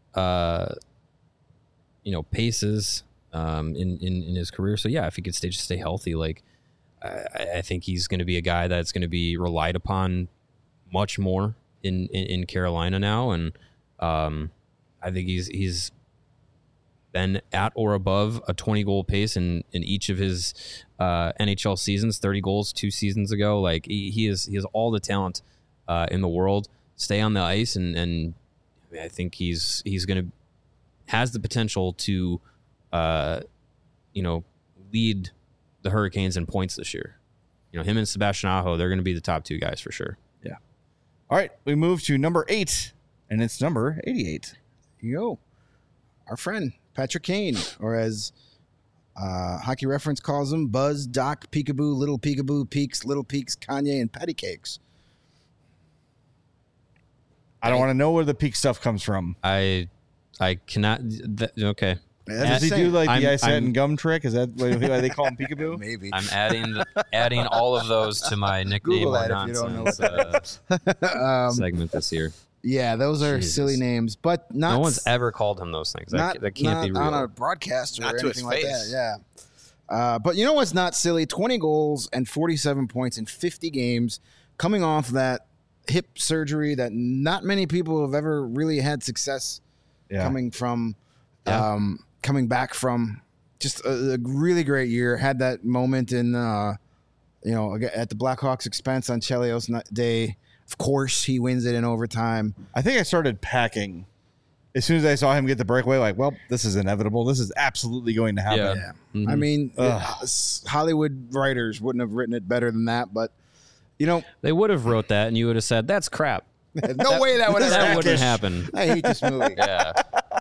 [SPEAKER 3] paces in his career. So, yeah, if he could stay healthy, like, I think he's going to be a guy that's going to be relied upon much more in Carolina now. And I think he's been at or above a 20-goal pace in each of his NHL seasons. 30 goals 2 seasons ago. Like he has all the talent in the world. Stay on the ice, and I think he's has the potential to lead the Hurricanes in points this year. Him and Sebastian Aho, they're going to be the top 2 guys for sure.
[SPEAKER 1] Yeah. All right, we move to number 8, and it's number 88.
[SPEAKER 4] Yo, our friend Patrick Kane, or as Hockey Reference calls him, Buzz, Doc, Peekaboo, Little Peekaboo, Peaks, Little Peaks, Kanye, and Patty Cakes.
[SPEAKER 1] I don't want to know where the peak stuff comes from.
[SPEAKER 3] I cannot. Okay.
[SPEAKER 1] Does he do like the
[SPEAKER 3] I'm-
[SPEAKER 1] I said and gum trick? Is that why they call him peekaboo?
[SPEAKER 4] Maybe.
[SPEAKER 3] I'm adding all of those to my nickname
[SPEAKER 4] Google
[SPEAKER 3] or
[SPEAKER 4] that if you don't know
[SPEAKER 3] nonsense segment this year.
[SPEAKER 4] Yeah, those are
[SPEAKER 3] Jesus.
[SPEAKER 4] silly names, but not.
[SPEAKER 3] No one's ever called him those things.
[SPEAKER 4] Not,
[SPEAKER 3] That can't be
[SPEAKER 4] not
[SPEAKER 3] real.
[SPEAKER 4] on a broadcast or
[SPEAKER 5] Not to his
[SPEAKER 4] anything like that.
[SPEAKER 5] face.
[SPEAKER 4] Yeah. But you know what's not silly? 20 goals and 47 points in 50 games, coming off that hip surgery that not many people have ever really had success coming from.
[SPEAKER 3] Yeah.
[SPEAKER 4] Coming back from just a really great year. Had that moment in, at the Blackhawks' expense on Chelios Day. Of course, he wins it in overtime.
[SPEAKER 1] I think I started packing as soon as I saw him get the breakaway. Like, well, this is inevitable. This is absolutely going to happen.
[SPEAKER 3] Yeah.
[SPEAKER 4] Yeah.
[SPEAKER 3] Mhm.
[SPEAKER 4] I mean,
[SPEAKER 1] Ugh.
[SPEAKER 4] Hollywood writers wouldn't have written it better than that, but
[SPEAKER 3] They would have wrote that, and you would have said, "That's crap."
[SPEAKER 4] no way that would have
[SPEAKER 3] That
[SPEAKER 4] happened.
[SPEAKER 3] wouldn't happen.
[SPEAKER 4] I hate this movie.
[SPEAKER 3] Yeah.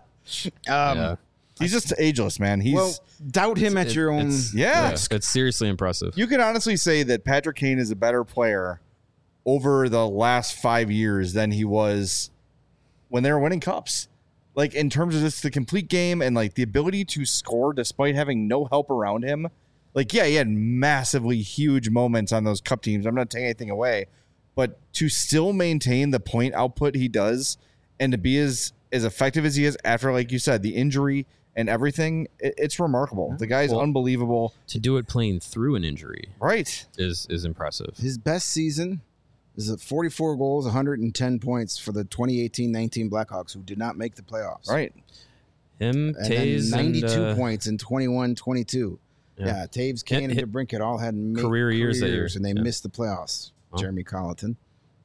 [SPEAKER 3] Yeah.
[SPEAKER 1] He's just ageless, man. He's
[SPEAKER 4] Well, doubt him at your own.
[SPEAKER 3] It's seriously impressive.
[SPEAKER 1] you could honestly say that Patrick Kane is a better player over the last 5 years than he was when they were winning cups. Like in terms of just the complete game and like the ability to score despite having no help around him. Like, yeah, he had massively huge moments on those cup teams. I'm not taking anything away, but to still maintain the point output he does and to be as effective as he is after, like you said, the injury and everything, it's remarkable. The guy's
[SPEAKER 3] Well,
[SPEAKER 1] unbelievable.
[SPEAKER 3] To do it playing through an injury
[SPEAKER 1] Right.
[SPEAKER 3] is impressive.
[SPEAKER 4] His best season is at 44 goals, 110 points for the 2018-19 Blackhawks, who did not make the playoffs.
[SPEAKER 1] Right.
[SPEAKER 3] Him,
[SPEAKER 4] And then
[SPEAKER 3] Taves,
[SPEAKER 4] 92
[SPEAKER 3] and,
[SPEAKER 4] points in 21-22. Yeah, Taves, Kane, and
[SPEAKER 3] Hit-
[SPEAKER 4] DeBrincat all had
[SPEAKER 3] career years that year.
[SPEAKER 4] and they
[SPEAKER 3] Yeah.
[SPEAKER 4] missed the playoffs.
[SPEAKER 3] Oh.
[SPEAKER 4] Jeremy Colleton.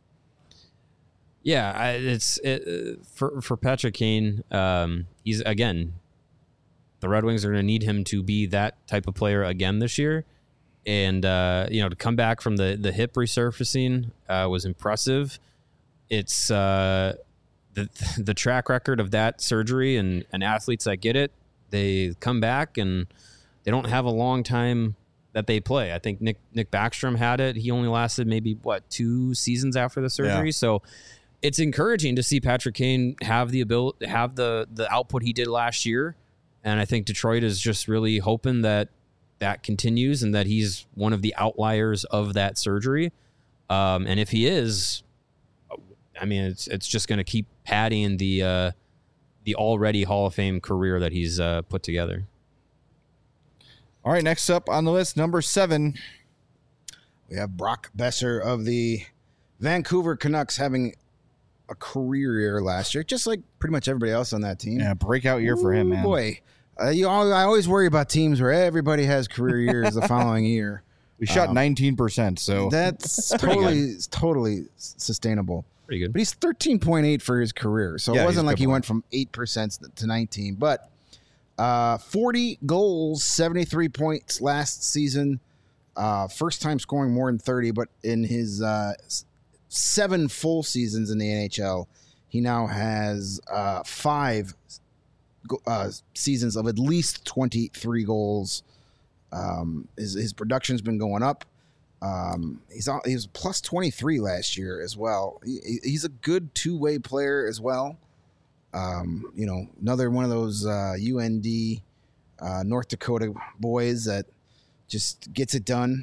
[SPEAKER 3] Yeah, for Patrick Kane. He's again. The Red Wings are going to need him to be that type of player again this year, and to come back from the hip resurfacing was impressive. It's the track record of that surgery and athletes that get it, they come back and they don't have a long time that they play. I think Nick Backstrom had it. He only lasted maybe 2 seasons after the surgery.
[SPEAKER 1] Yeah.
[SPEAKER 3] So it's encouraging to see Patrick Kane have the ability, have the output he did last year. And I think Detroit is just really hoping that continues and that he's one of the outliers of that surgery. And if he is, I mean, it's just going to keep padding the already Hall of Fame career that he's put together.
[SPEAKER 1] All right, next up on the list, number 7.
[SPEAKER 4] We have Brock Besser of the Vancouver Canucks having a career year last year, just like pretty much everybody else on that team.
[SPEAKER 1] Yeah, breakout year for him, man.
[SPEAKER 4] Boy, I always worry about teams where everybody has career years the following year.
[SPEAKER 1] We shot 19%, so
[SPEAKER 4] that's totally sustainable.
[SPEAKER 3] Pretty good.
[SPEAKER 4] But he's 13.8 for his career, so
[SPEAKER 1] Yeah,
[SPEAKER 4] it
[SPEAKER 1] he's
[SPEAKER 4] wasn't
[SPEAKER 1] a
[SPEAKER 4] like
[SPEAKER 1] good
[SPEAKER 4] he
[SPEAKER 1] one.
[SPEAKER 4] went from 8% to 19. But 40 goals, 73 points last season. First time scoring more than 30, but in his 7 full seasons in the NHL, he now has 5 seasons of at least 23 goals. His production's been going up. He was plus 23 last year as well. He's a good two-way player as well. Another one of those UND North Dakota boys that just gets it done.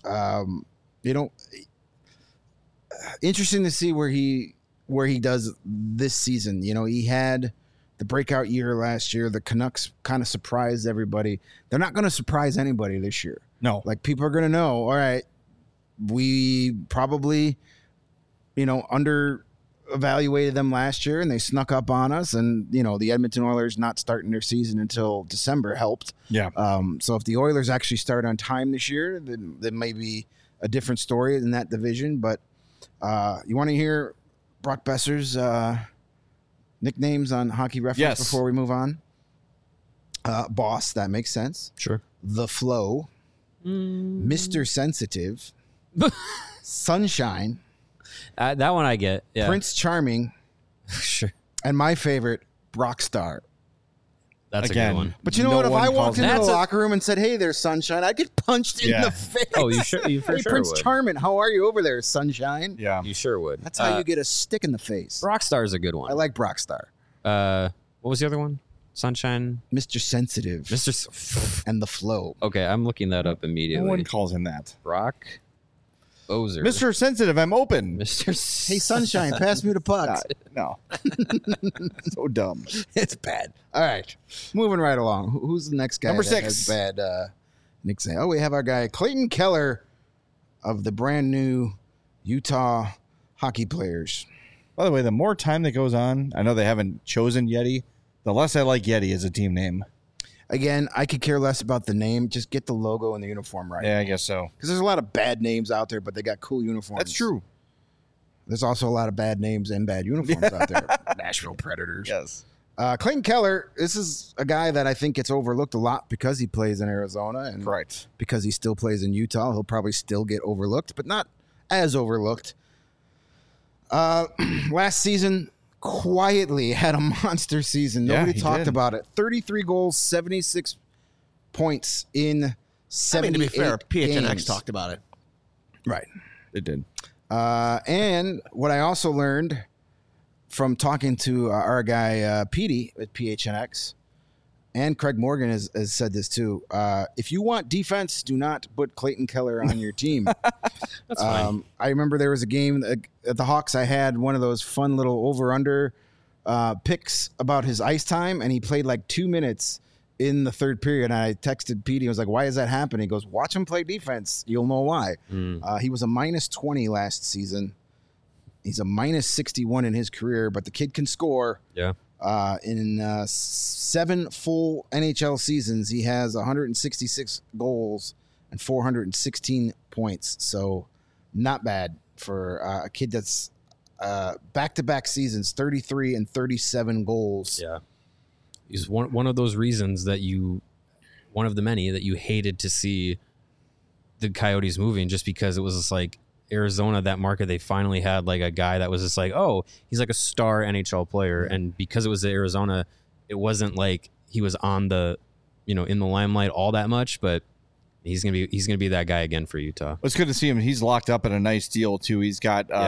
[SPEAKER 4] Interesting to see where he does this season. He had the breakout year last year. The Canucks kind of surprised everybody. They're not going to surprise anybody this year.
[SPEAKER 1] no.
[SPEAKER 4] Like, people are going to know, all right, we probably, under evaluated them last year and they snuck up on us, and the Edmonton Oilers not starting their season until December helped.
[SPEAKER 1] Yeah.
[SPEAKER 4] So if the Oilers actually start on time this year, then there may be a different story in that division. But you want to hear Brock Besser's nicknames on Hockey Reference
[SPEAKER 1] Yes.
[SPEAKER 4] before we move on? Boss, that makes sense.
[SPEAKER 3] Sure.
[SPEAKER 4] The Flow, Mr. Sensitive, Sunshine,
[SPEAKER 3] That one I get. Yeah.
[SPEAKER 4] Prince Charming,
[SPEAKER 3] Sure.
[SPEAKER 4] and my favorite, Brockstar.
[SPEAKER 3] That's
[SPEAKER 1] Again,
[SPEAKER 3] a good one.
[SPEAKER 4] But you know
[SPEAKER 1] No
[SPEAKER 4] what? If
[SPEAKER 1] one
[SPEAKER 4] I
[SPEAKER 1] calls
[SPEAKER 4] walked
[SPEAKER 1] him-
[SPEAKER 4] into the
[SPEAKER 3] That's a-
[SPEAKER 4] locker room and said, "Hey there, Sunshine," I'd get punched in
[SPEAKER 1] Yeah.
[SPEAKER 4] the face.
[SPEAKER 3] Oh, you sure? You for
[SPEAKER 4] Hey,
[SPEAKER 3] sure
[SPEAKER 4] Prince
[SPEAKER 3] would.
[SPEAKER 4] Charming, how are you over there, Sunshine?
[SPEAKER 1] Yeah.
[SPEAKER 3] You sure would.
[SPEAKER 4] That's how you get a stick in the face.
[SPEAKER 3] Rockstar is a good
[SPEAKER 4] I
[SPEAKER 3] one.
[SPEAKER 4] like Brockstar.
[SPEAKER 3] What was the other one? Sunshine,
[SPEAKER 4] Mr. Sensitive
[SPEAKER 3] Mr.
[SPEAKER 4] and the Flow.
[SPEAKER 3] Okay, I'm looking that up
[SPEAKER 1] No
[SPEAKER 3] immediately.
[SPEAKER 1] one calls him that.
[SPEAKER 3] Brock Ozer.
[SPEAKER 1] Mr. Sensitive, I'm open.
[SPEAKER 3] Mr.
[SPEAKER 4] Hey, Sunshine, pass me the puck.
[SPEAKER 1] No. So dumb.
[SPEAKER 4] It's bad. All right, moving right along. Who's the next guy?
[SPEAKER 1] Number
[SPEAKER 4] that
[SPEAKER 1] 6.
[SPEAKER 4] has bad nickname. Oh, we have our guy Clayton Keller of the brand new Utah Hockey Players.
[SPEAKER 1] By the way, the more time that goes on, I know they haven't chosen Yeti, the less I like Yeti as a team name.
[SPEAKER 4] Again, I could care less about the name. Just get the logo and the uniform right.
[SPEAKER 1] Yeah, I guess so.
[SPEAKER 4] Because there's a lot of bad names out there, but they got cool uniforms.
[SPEAKER 1] That's true.
[SPEAKER 4] There's also a lot of bad names and bad uniforms out there. Nashville Predators.
[SPEAKER 1] Yes.
[SPEAKER 4] Clayton Keller, this is a guy that I think gets overlooked a lot because he plays in Arizona and
[SPEAKER 1] Correct.
[SPEAKER 4] because he still plays in Utah. He'll probably still get overlooked, but not as overlooked. Last season, quietly had a monster season.
[SPEAKER 1] Yeah,
[SPEAKER 4] Nobody
[SPEAKER 1] he
[SPEAKER 4] talked
[SPEAKER 1] did.
[SPEAKER 4] about it. 33 goals, 76 points in 78
[SPEAKER 5] to be fair, PHNX
[SPEAKER 4] games.
[SPEAKER 5] talked about it.
[SPEAKER 4] Right.
[SPEAKER 1] It did.
[SPEAKER 4] And what I also learned from talking to our guy Petey at PHNX, and Craig Morgan has said this too. If you want defense, do not put Clayton Keller on your team.
[SPEAKER 3] That's fine.
[SPEAKER 4] I remember there was a game at the Hawks. I had one of those fun little over/under picks about his ice time, and he played like 2 minutes in the third period. And I texted Petey. I was like, "Why is that happening?" He goes, "Watch him play defense. You'll know why." He was a minus 20 last season. He's a minus 61 in his career, but the kid can score.
[SPEAKER 3] Yeah.
[SPEAKER 4] In 7 full NHL seasons, he has 166 goals and 416 points. So not bad for a kid that's back-to-back seasons, 33 and 37 goals.
[SPEAKER 3] Yeah. He's one of those reasons that one of the many that you hated to see the Coyotes moving, just because it was just like Arizona, that market, they finally had like a guy that was just like, oh, he's like a star NHL player. And because it was Arizona, it wasn't like he was on the, in the limelight all that much, but he's going to be that guy again for Utah.
[SPEAKER 1] It's good to see him. He's locked up in a nice deal too. He's got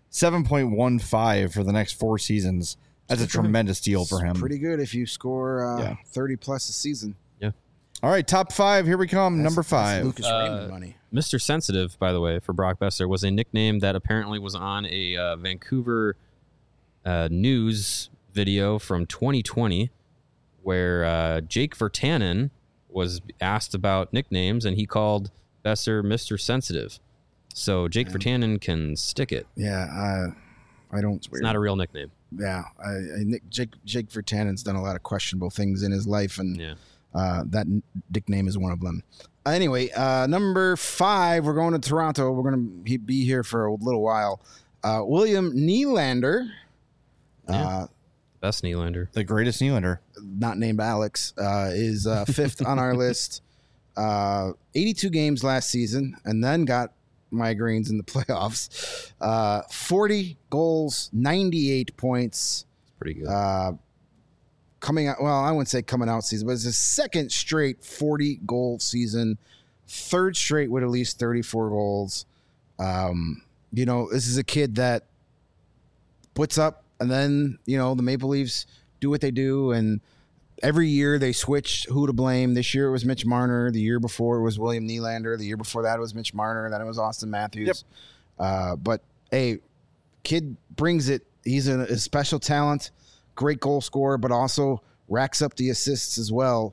[SPEAKER 1] 7.15 for the next 4 seasons. That's a tremendous deal for him.
[SPEAKER 4] Pretty good if you score
[SPEAKER 1] Yeah.
[SPEAKER 4] 30 plus a season.
[SPEAKER 1] All right, top 5. Here we come. Number
[SPEAKER 4] That's
[SPEAKER 1] 5.
[SPEAKER 4] Lucas Raymond money.
[SPEAKER 3] Mr. Sensitive, by the way, for Brock Besser, was a nickname that apparently was on a Vancouver news video from 2020 where Jake Virtanen was asked about nicknames, and he called Besser Mr. Sensitive. So Jake Virtanen can stick it.
[SPEAKER 4] Yeah, I don't.
[SPEAKER 3] It's not a real nickname.
[SPEAKER 4] Yeah, Jake Virtanen's done a lot of questionable things in his life, and
[SPEAKER 3] Yeah.
[SPEAKER 4] that nickname is one of them. Anyway, number 5, we're going to Toronto. We're going to be here for a little while. William Nylander,
[SPEAKER 3] Best Nylander.
[SPEAKER 1] The greatest Nylander.
[SPEAKER 4] not named Alex, is 5th on our list. 82 games last season, and then got migraines in the playoffs. 40 goals, 98 points.
[SPEAKER 3] Pretty good.
[SPEAKER 4] Coming out, well, I wouldn't say coming out season, but it's his second straight 40 goal season, third straight with at least 34 goals. This is a kid that puts up, and then, the Maple Leafs do what they do, and every year they switch who to blame. This year it was Mitch Marner. The year before it was William Nylander. The year before that it was Mitch Marner. Then it was Austin Matthews. But, hey, kid brings it. He's a special talent. Great goal scorer, but also racks up the assists as well.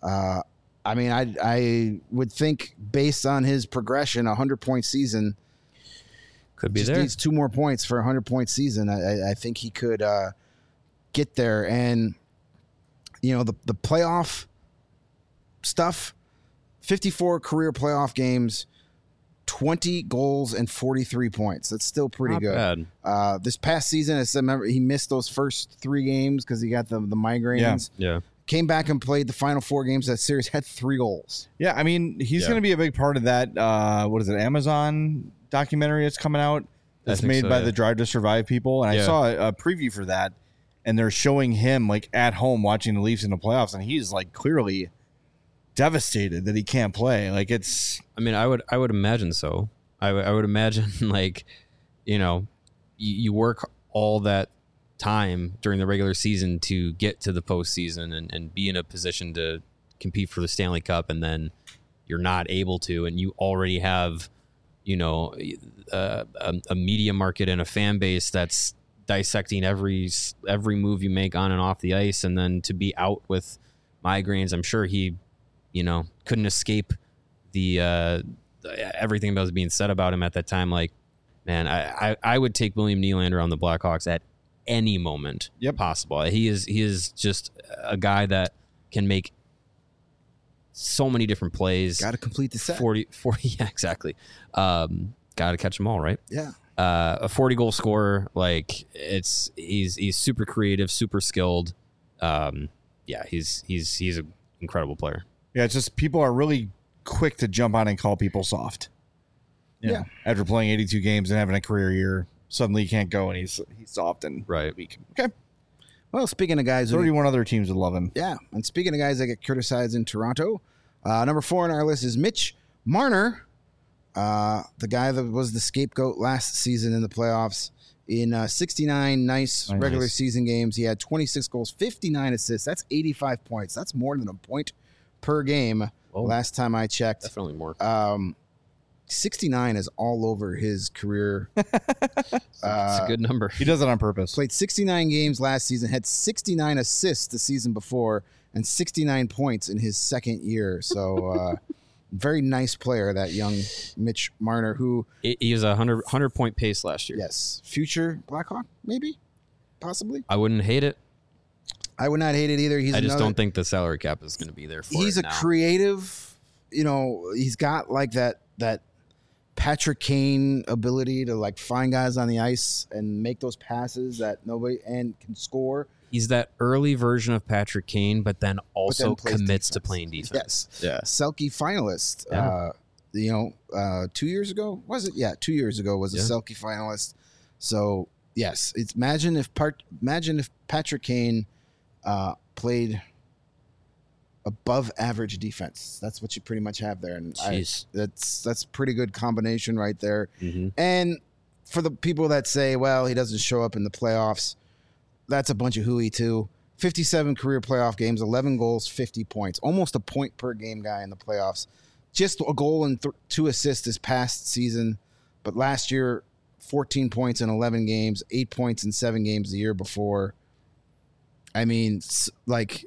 [SPEAKER 4] I would think based on his progression, 100-point season
[SPEAKER 3] Could be
[SPEAKER 4] just
[SPEAKER 3] there.
[SPEAKER 4] needs 2 more points for a 100-point season. I think he could get there. And, the playoff stuff, 54 career playoff games, 20 goals and 43 points. That's still pretty
[SPEAKER 3] Not
[SPEAKER 4] good.
[SPEAKER 3] bad.
[SPEAKER 4] This past season, I remember he missed those first 3 games because he got the migraines.
[SPEAKER 3] Yeah.
[SPEAKER 4] Came back and played the final 4 games of that series, had 3 goals.
[SPEAKER 1] Yeah, I mean, he's
[SPEAKER 3] Yeah.
[SPEAKER 1] going to be a big part of that. What is it? Amazon documentary that's coming out. That's
[SPEAKER 3] think
[SPEAKER 1] made
[SPEAKER 3] so,
[SPEAKER 1] by
[SPEAKER 3] yeah.
[SPEAKER 1] the Drive to Survive people, and I
[SPEAKER 3] Yeah.
[SPEAKER 1] saw a preview for that, and they're showing him like at home watching the Leafs in the playoffs, and he's like clearly devastated that he can't play. Like it's
[SPEAKER 3] I mean, I would imagine so. I would imagine like, you work all that time during the regular season to get to the postseason and be in a position to compete for the Stanley Cup, and then you're not able to, and you already have, a media market and a fan base that's dissecting every move you make on and off the ice, and then to be out with migraines, I'm sure he, couldn't escape the everything that was being said about him at that time. Like, man, I would take William Nylander on the Blackhawks at any moment possible. He is just a guy that can make so many different plays.
[SPEAKER 4] Got to complete the set.
[SPEAKER 3] 40 yeah, exactly. Got to catch them all, right?
[SPEAKER 4] Yeah.
[SPEAKER 3] A 40 goal scorer, like he's super creative, super skilled. He's an incredible player.
[SPEAKER 1] Yeah, it's just people are really quick to jump on and call people soft.
[SPEAKER 4] Yeah.
[SPEAKER 1] After playing 82 games and having a career year, suddenly he can't go and he's soft and
[SPEAKER 3] Right.
[SPEAKER 1] weak. Okay.
[SPEAKER 4] Well, speaking of guys who
[SPEAKER 1] 31 other teams would love him.
[SPEAKER 4] Yeah, and speaking of guys that get criticized in Toronto, number 4 on our list is Mitch Marner, the guy that was the scapegoat last season in the playoffs. In 69 nice regular season games, he had 26 goals, 59 assists. That's 85 points. That's more than a point per game.
[SPEAKER 3] Whoa.
[SPEAKER 4] Last time I checked.
[SPEAKER 3] Definitely more.
[SPEAKER 4] 69 is all over his career.
[SPEAKER 3] It's a good number.
[SPEAKER 1] He does it on purpose.
[SPEAKER 4] Played 69 games last season, had 69 assists the season before, and 69 points in his second year. So, very nice player, that young Mitch Marner, who,
[SPEAKER 3] He was a 100 point pace last year.
[SPEAKER 4] yes, future Blackhawk, maybe, possibly.
[SPEAKER 3] I wouldn't hate it.
[SPEAKER 4] I would not hate it either. He's
[SPEAKER 3] I just
[SPEAKER 4] another-
[SPEAKER 3] don't think the salary cap is going to be there for
[SPEAKER 4] he's
[SPEAKER 3] it
[SPEAKER 4] a
[SPEAKER 3] now.
[SPEAKER 4] creative, he's got like that Patrick Kane ability to like find guys on the ice and make those passes that nobody and can score.
[SPEAKER 3] He's that early version of Patrick Kane, but then also
[SPEAKER 4] plays
[SPEAKER 3] commits to
[SPEAKER 4] defense.
[SPEAKER 3] playing defense.
[SPEAKER 4] Yes.
[SPEAKER 3] Yeah.
[SPEAKER 4] Selke finalist.
[SPEAKER 3] Yeah.
[SPEAKER 4] 2 years ago, was it? Yeah, 2 years ago was a
[SPEAKER 3] Yeah.
[SPEAKER 4] Selke finalist. So yes, it's imagine if Patrick Kane played above average defense. That's what you pretty much have there, and
[SPEAKER 3] Jeez.
[SPEAKER 4] that's pretty good combination right there.
[SPEAKER 3] Mm-hmm.
[SPEAKER 4] And for the people that say, well, he doesn't show up in the playoffs, that's a bunch of hooey too. 57 career playoff games, 11 goals, 50 points, almost a point per game guy in the playoffs. Just a goal and 2 assists this past season, but last year 14 points in 11 games, 8 points in 7 games the year before. I mean, like,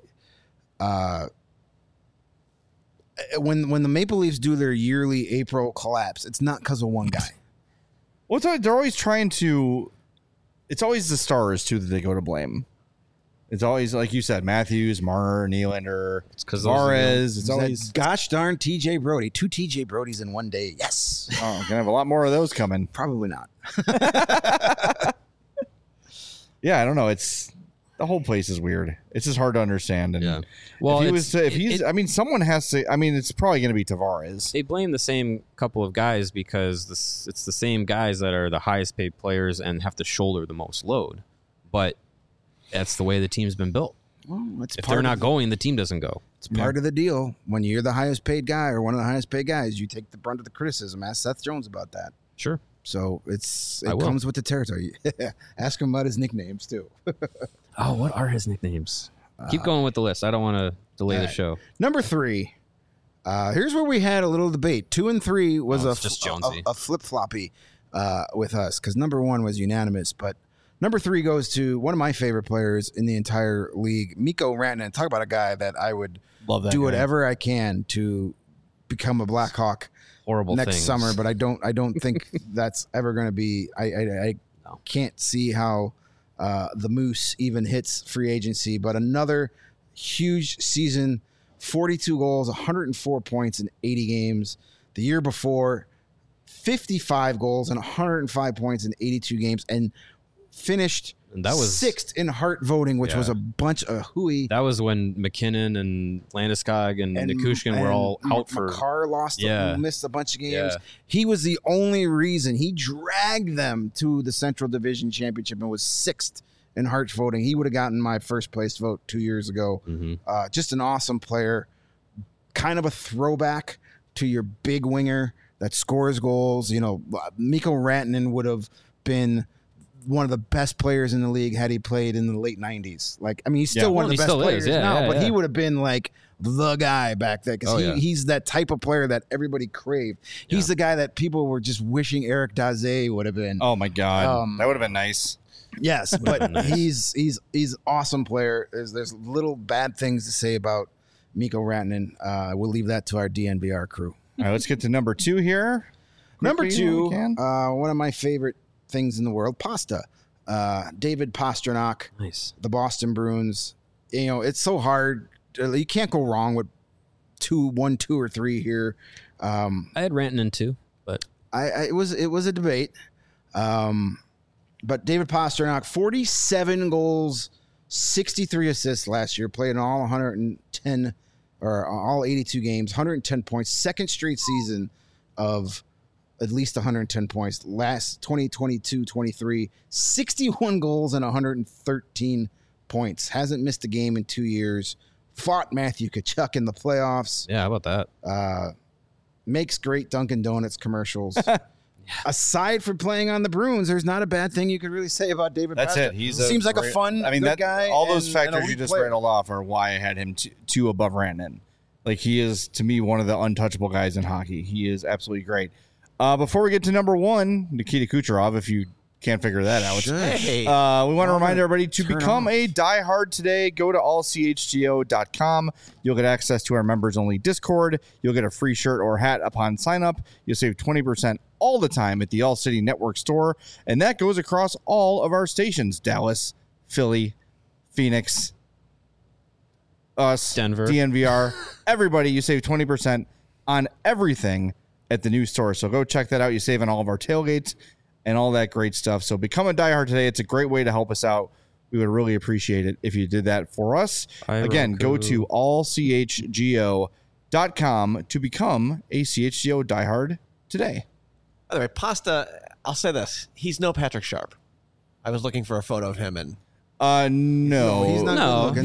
[SPEAKER 4] when the Maple Leafs do their yearly April collapse, it's not because of one guy.
[SPEAKER 1] Well, they're always trying to. It's always the stars too that they go to blame. It's always, like you said, Matthews, Marner, Nylander, Suarez. It's always
[SPEAKER 4] gosh darn TJ Brody. 2 TJ Brodys in one day. Yes.
[SPEAKER 1] Oh, gonna have a lot more of those coming.
[SPEAKER 4] Probably not.
[SPEAKER 1] Yeah, I don't know. It's the whole place is weird. It's just hard to understand. And
[SPEAKER 3] well,
[SPEAKER 1] someone has to. I mean, it's probably going to be Tavares.
[SPEAKER 3] They blame the same couple of guys because it's the same guys that are the highest paid players and have to shoulder the most load. But that's the way the team's been built.
[SPEAKER 4] Well, if
[SPEAKER 3] they're not going, the team doesn't go.
[SPEAKER 4] It's part of the deal. When you're the highest paid guy or one of the highest paid guys, you take the brunt of the criticism. Ask Seth Jones about that.
[SPEAKER 3] Sure.
[SPEAKER 4] So it comes with the territory. Ask him about his nicknames too.
[SPEAKER 3] Oh, what are his nicknames? Keep going with the list. I don't want to delay the show.
[SPEAKER 4] Number 3. Here's where we had a little debate. 2 and 3 was a flip-floppy with us because number 1 was unanimous. But number 3 goes to one of my favorite players in the entire league, Mikko Rantanen. Talk about a guy that I would do whatever I can to become a Blackhawk next summer. But I don't think that's ever going to be. I can't see how the Moose even hits free agency. But another huge season, 42 goals, 104 points in 80 games. The year before, 55 goals and 105 points in 82 games, and finished sixth in Hart voting, which was a bunch of hooey.
[SPEAKER 3] That was when McKinnon and Landeskog and Nikushkin were all out for.
[SPEAKER 4] Makar missed a bunch of games. Yeah. He was the only reason. He dragged them to the Central Division Championship and was 6th in Hart voting. He would have gotten my first place vote 2 years ago. Mm-hmm. Just an awesome player. Kind of a throwback to your big winger that scores goals. You know, Mikko Rantanen would have been one of the best players in the league had he played in the late 90s. Like, I mean, he's still one of the best players now, but he would have been like the guy back then because he's that type of player that everybody craved. He's the guy that people were just wishing Eric Daze would have been.
[SPEAKER 1] Oh my God. That would have been nice.
[SPEAKER 4] Yes, but he's awesome player. There's little bad things to say about Mikko Rantanen. We'll leave that to our DNVR crew.
[SPEAKER 1] All right, let's get to number 2 here.
[SPEAKER 4] Number 2, one of my favorite things in the world, pasta. David Pastrnak,
[SPEAKER 3] nice.
[SPEAKER 4] The Boston Bruins. You know, it's so hard. You can't go wrong with 1, 2, or 3 here.
[SPEAKER 3] I had Rantanen too, but
[SPEAKER 4] it was a debate. But David Pastrnak, 47 goals, 63 assists last year, played in all 110 or all 82 games, 110 points, second straight season of at least 110 points. Last 2022-23, 61 goals and 113 points. Hasn't missed a game in 2 years. Fought Matthew Tkachuk in the playoffs.
[SPEAKER 3] Yeah, how about that?
[SPEAKER 4] Makes great Dunkin' Donuts commercials. Aside from playing on the Bruins, there's not a bad thing you could really say about David Pastrnak.
[SPEAKER 1] That's it. He
[SPEAKER 4] seems like a fun, good guy.
[SPEAKER 1] All those factors you just rattled off are why I had him 2 above Rantanen. Like, he is, to me, one of the untouchable guys in hockey. He is absolutely great. Before we get to number 1, Nikita Kucherov, if you can't figure that out. We want to remind everybody to become a diehard today. Go to allchgo.com. You'll get access to our members-only Discord. You'll get a free shirt or hat upon sign-up. You'll save 20% all the time at the All City Network store, and that goes across all of our stations: Dallas, Philly, Phoenix, us,
[SPEAKER 3] Denver,
[SPEAKER 1] DNVR, everybody. You save 20% on everything at the new store. So go check that out. You save on all of our tailgates and all that great stuff. So become a diehard today. It's a great way to help us out. We would really appreciate it if you did that for us. Again, go to allchgo.com to become a CHGO diehard today.
[SPEAKER 5] By the way, Pasta, I'll say this. He's no Patrick Sharp. I was looking for a photo of him and
[SPEAKER 1] no.
[SPEAKER 4] He's not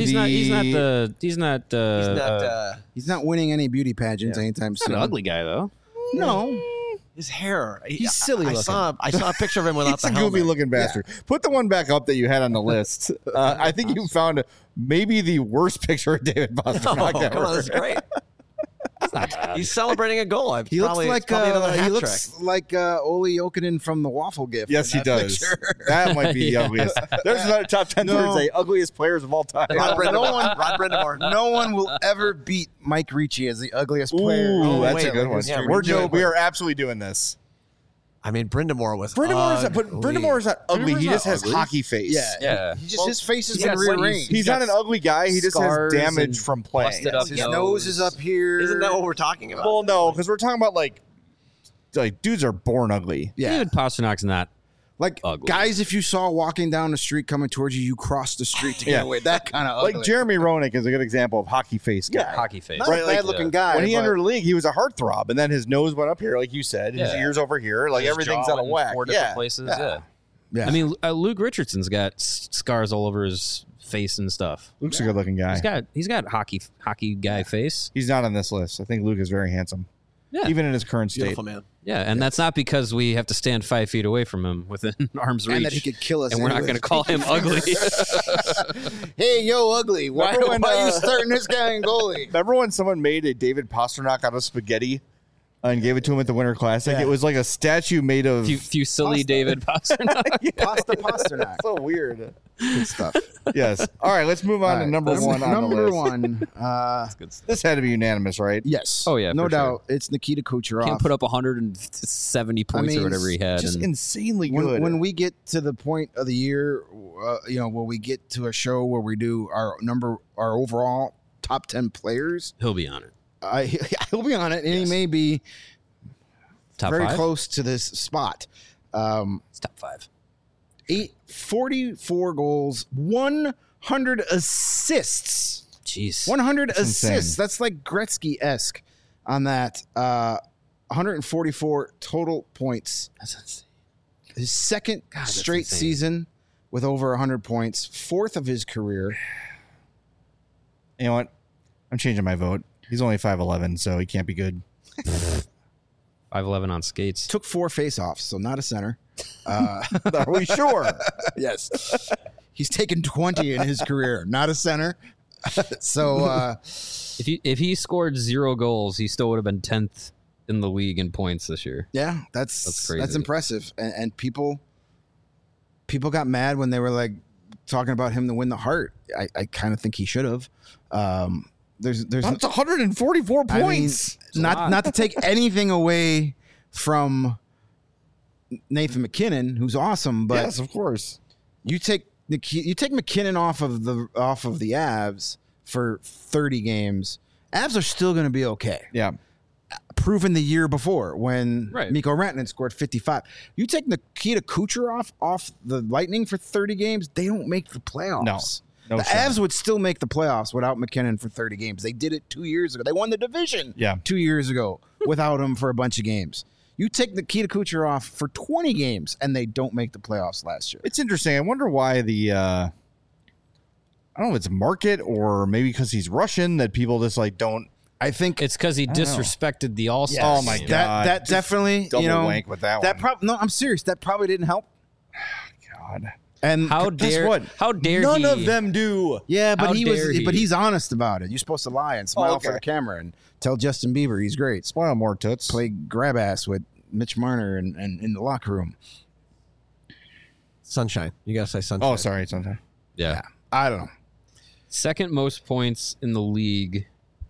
[SPEAKER 3] He's
[SPEAKER 4] not winning any beauty pageants anytime soon.
[SPEAKER 3] an ugly guy though.
[SPEAKER 4] No.
[SPEAKER 5] His hair.
[SPEAKER 4] He's silly
[SPEAKER 5] I
[SPEAKER 4] looking.
[SPEAKER 5] saw a picture of him without
[SPEAKER 1] It's
[SPEAKER 5] the
[SPEAKER 1] a
[SPEAKER 5] helmet.
[SPEAKER 1] goofy looking bastard. Put the one back up that you had on the list. I think you found maybe the worst picture of David
[SPEAKER 5] Oh,
[SPEAKER 1] Pastrnak
[SPEAKER 5] come
[SPEAKER 1] ever.
[SPEAKER 5] on, that's great.
[SPEAKER 3] It's not bad.
[SPEAKER 5] He's celebrating a goal.
[SPEAKER 4] He looks like
[SPEAKER 5] another hat
[SPEAKER 4] he
[SPEAKER 5] trick.
[SPEAKER 4] looks like Oli Jokinen from the waffle gift.
[SPEAKER 1] Yes,
[SPEAKER 4] in
[SPEAKER 1] he
[SPEAKER 4] that
[SPEAKER 1] does.
[SPEAKER 4] picture.
[SPEAKER 1] That might be the ugliest. There's another top 10
[SPEAKER 4] No.
[SPEAKER 1] Thursday ugliest players of all time.
[SPEAKER 5] Rod
[SPEAKER 4] Brind'Amour.
[SPEAKER 5] Brind'Amour.
[SPEAKER 4] No one will ever beat Mike Ricci as the ugliest player.
[SPEAKER 1] Ooh,
[SPEAKER 4] in
[SPEAKER 1] that's
[SPEAKER 5] wait,
[SPEAKER 1] a good one.
[SPEAKER 5] yeah,
[SPEAKER 1] We are absolutely doing this.
[SPEAKER 5] I mean, Brind'Amour was
[SPEAKER 1] Brind'Amour is not ugly. He just has hockey face.
[SPEAKER 3] Yeah.
[SPEAKER 4] He just his face has
[SPEAKER 3] he's
[SPEAKER 4] been
[SPEAKER 3] got some-
[SPEAKER 4] rearranged.
[SPEAKER 1] He's not an ugly guy. He just has
[SPEAKER 3] scars
[SPEAKER 1] damage
[SPEAKER 3] and
[SPEAKER 1] from playing.
[SPEAKER 3] busted up
[SPEAKER 4] His nose is up here.
[SPEAKER 5] Isn't that what we're talking about?
[SPEAKER 1] Well, no, because we're talking about like dudes are born ugly.
[SPEAKER 4] Yeah.
[SPEAKER 3] David Pasternak's not.
[SPEAKER 4] Like
[SPEAKER 3] Ugly.
[SPEAKER 4] guys, if you saw walking down the street coming towards you, you cross the street to get
[SPEAKER 1] Yeah.
[SPEAKER 4] away. That kind of ugly.
[SPEAKER 1] Like Jeremy Roenick is a good example of hockey face guy.
[SPEAKER 3] Hockey face.
[SPEAKER 4] not
[SPEAKER 1] right,
[SPEAKER 4] a
[SPEAKER 1] like,
[SPEAKER 4] bad looking guy.
[SPEAKER 1] When he
[SPEAKER 4] but
[SPEAKER 1] entered the league, he was a heartthrob, and then his nose went up here, like you said, his
[SPEAKER 3] Yeah.
[SPEAKER 1] ears over here, like
[SPEAKER 3] His
[SPEAKER 1] everything's
[SPEAKER 3] jaw
[SPEAKER 1] out of
[SPEAKER 3] in
[SPEAKER 1] whack.
[SPEAKER 3] 4 different
[SPEAKER 1] Yeah.
[SPEAKER 3] places.
[SPEAKER 1] Yeah.
[SPEAKER 4] Yeah.
[SPEAKER 3] I mean, Luke Richardson's got scars all over his face and stuff.
[SPEAKER 1] Luke's a good looking guy.
[SPEAKER 3] He's got hockey guy face.
[SPEAKER 1] He's not on this list. I think Luke is very handsome.
[SPEAKER 3] Yeah.
[SPEAKER 1] Even in his current state.
[SPEAKER 5] Beautiful man.
[SPEAKER 3] Yeah, and that's not because we have to stand 5 feet away from him within arm's reach.
[SPEAKER 4] and that he could kill us.
[SPEAKER 3] and we're not going to call him ugly.
[SPEAKER 4] Hey, yo, ugly. Why,
[SPEAKER 1] Remember when,
[SPEAKER 4] why are you starting this guy in goalie?
[SPEAKER 1] Remember when someone made a David Pastrnak out of spaghetti and gave it to him at the Winter Classic?
[SPEAKER 4] Yeah.
[SPEAKER 1] It was like a statue made of
[SPEAKER 3] Fusilli David Pasternak.
[SPEAKER 4] Pasta Pasternak.
[SPEAKER 1] so weird.
[SPEAKER 4] Good stuff.
[SPEAKER 1] Yes. All right, let's move on to number one on the
[SPEAKER 4] Number
[SPEAKER 1] list.
[SPEAKER 4] one.
[SPEAKER 1] This had to be unanimous, right?
[SPEAKER 4] Yes.
[SPEAKER 3] Oh, yeah,
[SPEAKER 4] No
[SPEAKER 3] for
[SPEAKER 4] doubt. It's Nikita Kucherov.
[SPEAKER 3] Can't put up 170 points or whatever he had.
[SPEAKER 1] Just
[SPEAKER 3] and
[SPEAKER 1] insanely good.
[SPEAKER 4] when we get to the point of the year, where we get to a show where we do our overall top 10 players,
[SPEAKER 3] he'll be on it.
[SPEAKER 4] he'll be on it, and he may be
[SPEAKER 3] Top
[SPEAKER 4] very
[SPEAKER 3] 5?
[SPEAKER 4] close to this spot.
[SPEAKER 3] It's top 5.
[SPEAKER 4] 44 goals, 100 assists.
[SPEAKER 3] Jeez.
[SPEAKER 4] 100
[SPEAKER 1] That's
[SPEAKER 4] assists.
[SPEAKER 1] insane.
[SPEAKER 4] That's like Gretzky-esque on that. 144 total points.
[SPEAKER 3] That's insane.
[SPEAKER 4] His second
[SPEAKER 3] that's
[SPEAKER 4] straight
[SPEAKER 3] insane.
[SPEAKER 4] season with over 100 points. Fourth of his career.
[SPEAKER 1] You know what? I'm changing my vote. He's only 5'11", so he can't be good.
[SPEAKER 3] 5'11 on skates.
[SPEAKER 4] Took 4 faceoffs, so not a center.
[SPEAKER 1] Are we sure?
[SPEAKER 4] Yes. He's taken 20 in his career, not a center. So
[SPEAKER 3] If he scored 0 goals, he still would have been 10th in the league in points this year.
[SPEAKER 4] yeah,
[SPEAKER 3] That's
[SPEAKER 4] that's
[SPEAKER 3] crazy.
[SPEAKER 4] impressive. And people got mad when they were like talking about him to win the Hart. I kind of think he should have. There's
[SPEAKER 1] That's 144
[SPEAKER 4] I mean,
[SPEAKER 1] points.
[SPEAKER 4] not to take anything away from Nathan McKinnon, who's awesome, but
[SPEAKER 1] yes, of course.
[SPEAKER 4] you take McKinnon off of the Avs for 30 games. Avs are still going to be okay.
[SPEAKER 1] Yeah.
[SPEAKER 4] Proven the year before when
[SPEAKER 3] Right.
[SPEAKER 4] Mikko Rantanen scored 55. You take Nikita Kucherov off the Lightning for 30 games, they don't make the playoffs.
[SPEAKER 1] No
[SPEAKER 4] the
[SPEAKER 1] shot.
[SPEAKER 4] Avs would still make the playoffs without McKinnon for 30 games. They did it 2 years ago. They won the division
[SPEAKER 1] Yeah.
[SPEAKER 4] 2 years ago without him for a bunch of games. You take Nikita Kucherov for 20 games, and they don't make the playoffs last year.
[SPEAKER 1] It's interesting. I wonder why the I don't know if it's market or maybe because he's Russian that people just like don't
[SPEAKER 4] I think
[SPEAKER 3] It's because he
[SPEAKER 1] don't know.
[SPEAKER 3] disrespected the All-Star.
[SPEAKER 1] Oh, my
[SPEAKER 3] game.
[SPEAKER 1] God.
[SPEAKER 4] that
[SPEAKER 1] Just
[SPEAKER 4] definitely
[SPEAKER 1] double wank with that one.
[SPEAKER 4] No, I'm serious. That probably didn't help.
[SPEAKER 1] God.
[SPEAKER 4] And
[SPEAKER 3] How
[SPEAKER 1] Guess
[SPEAKER 3] dare?
[SPEAKER 1] what?
[SPEAKER 3] How dare
[SPEAKER 1] None
[SPEAKER 3] he?
[SPEAKER 1] of them do.
[SPEAKER 4] yeah, but
[SPEAKER 3] How
[SPEAKER 4] he was.
[SPEAKER 3] dare he?
[SPEAKER 4] But he's honest about it. You're supposed to lie and smile
[SPEAKER 1] okay.
[SPEAKER 4] for the camera and tell Justin Bieber he's great.
[SPEAKER 1] Spoil more toots.
[SPEAKER 4] Play grab ass with Mitch Marner and in the locker room.
[SPEAKER 5] Sunshine. You gotta say sunshine.
[SPEAKER 1] Oh, sorry. Sometimes.
[SPEAKER 3] Yeah.
[SPEAKER 4] I don't know.
[SPEAKER 3] Second most points in the league,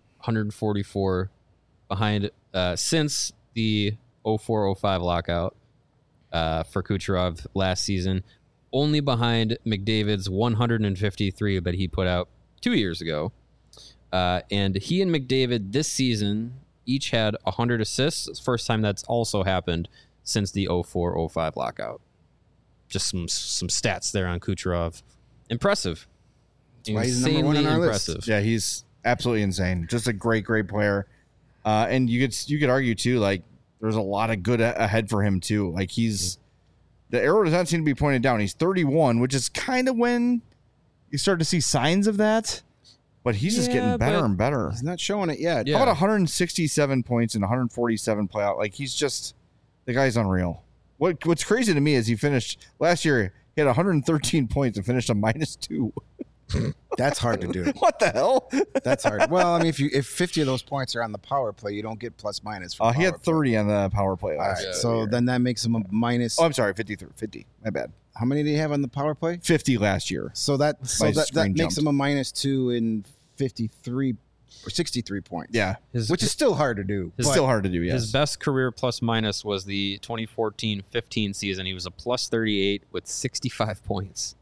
[SPEAKER 3] 144 behind since the 04-05 lockout for Kucherov last season. Only behind McDavid's 153 that he put out 2 years ago. And he and McDavid this season each had 100 assists. It's the first time that's also happened since the 04-05 lockout. Just some stats there on Kucherov. Impressive.
[SPEAKER 4] why he's number one on our list.
[SPEAKER 3] impressive.
[SPEAKER 1] Yeah, he's absolutely insane. Just a great player. And you could argue too, like there's a lot of good ahead for him too. Like the arrow does not seem to be pointed down. He's 31, which is kind of when you start to see signs of that. But he's just
[SPEAKER 3] Yeah,
[SPEAKER 1] getting better
[SPEAKER 3] but-
[SPEAKER 1] and better.
[SPEAKER 4] He's not showing it yet.
[SPEAKER 3] Yeah.
[SPEAKER 1] How about 167 points and 147 playout? Like he's just The guy's unreal. What's crazy to me is he finished last year. He had 113 points and finished a -2.
[SPEAKER 4] That's hard to do.
[SPEAKER 1] What the hell?
[SPEAKER 4] That's hard. Well, I mean, if 50 of those points are on the power play, you don't get plus minus. From
[SPEAKER 1] He had 30 on the power play
[SPEAKER 4] All
[SPEAKER 1] last
[SPEAKER 4] right,
[SPEAKER 1] year.
[SPEAKER 4] so then that makes him a minus.
[SPEAKER 1] Oh, I'm sorry, 50. My bad.
[SPEAKER 4] How many did he have on the power play?
[SPEAKER 1] 50 last year.
[SPEAKER 4] So that
[SPEAKER 1] My
[SPEAKER 4] that
[SPEAKER 1] screen
[SPEAKER 4] makes
[SPEAKER 1] jumped.
[SPEAKER 4] him a -2 in 53 or 63 points.
[SPEAKER 1] Yeah,
[SPEAKER 4] which is still hard to do.
[SPEAKER 1] it's still hard to do. Yes.
[SPEAKER 3] His best career plus minus was the 2014-15 season. He was a plus 38 with 65 points.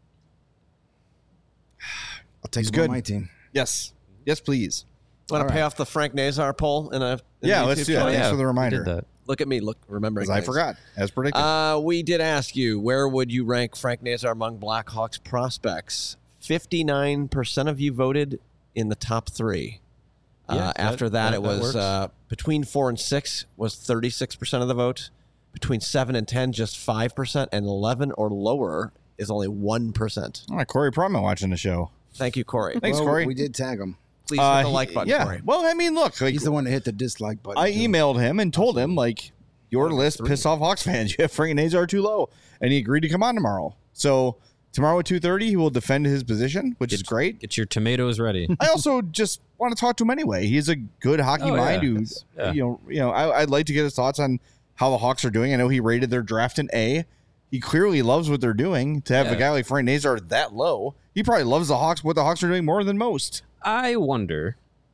[SPEAKER 4] I'll take
[SPEAKER 1] He's
[SPEAKER 4] him
[SPEAKER 1] good.
[SPEAKER 4] on my team.
[SPEAKER 1] Yes, please.
[SPEAKER 5] Want to
[SPEAKER 4] All
[SPEAKER 5] pay
[SPEAKER 4] right.
[SPEAKER 5] off the Frank Nazar poll in a
[SPEAKER 1] Yeah,
[SPEAKER 5] the
[SPEAKER 1] let's
[SPEAKER 5] YouTube
[SPEAKER 1] do that.
[SPEAKER 5] channel?
[SPEAKER 1] Thanks for the
[SPEAKER 3] We
[SPEAKER 1] reminder.
[SPEAKER 3] did that.
[SPEAKER 5] Look at me, remembering.
[SPEAKER 1] Because I
[SPEAKER 5] things.
[SPEAKER 1] forgot, as predicted.
[SPEAKER 5] We did ask you, where would you rank Frank Nazar among Blackhawks prospects? 59% of you voted in the top 3.
[SPEAKER 3] Yeah,
[SPEAKER 5] After that, it was
[SPEAKER 3] works.
[SPEAKER 5] between 4 and 6 was 36% of the vote. Between 7 and 10, just 5%, and 11 or lower is only 1%.
[SPEAKER 1] All right, Corey Proman watching the show.
[SPEAKER 5] Thank you, Corey.
[SPEAKER 1] Thanks,
[SPEAKER 4] Well,
[SPEAKER 1] Corey.
[SPEAKER 4] We did tag him.
[SPEAKER 5] Please hit the like button,
[SPEAKER 1] Yeah.
[SPEAKER 5] Corey.
[SPEAKER 1] Well, I mean, look, like,
[SPEAKER 4] He's the one that hit the dislike button.
[SPEAKER 1] I
[SPEAKER 4] too.
[SPEAKER 1] emailed him and told him, like, your list pissed off Hawks fans. You have Frank Nazar too low. And he agreed to come on tomorrow. So tomorrow at 2:30, he will defend his position, which is great.
[SPEAKER 3] Get your tomatoes ready.
[SPEAKER 1] I also just want to talk to him anyway. He's a good hockey
[SPEAKER 3] Oh,
[SPEAKER 1] mind
[SPEAKER 3] yeah.
[SPEAKER 1] who,
[SPEAKER 3] It's- yeah.
[SPEAKER 1] you know, I'd like to get his thoughts on how the Hawks are doing. I know he rated their draft an A. He clearly loves what they're doing. To have a
[SPEAKER 3] Yeah.
[SPEAKER 1] guy like Frank Nazar that low, he probably loves the Hawks, what the Hawks are doing more than most.
[SPEAKER 3] I wonder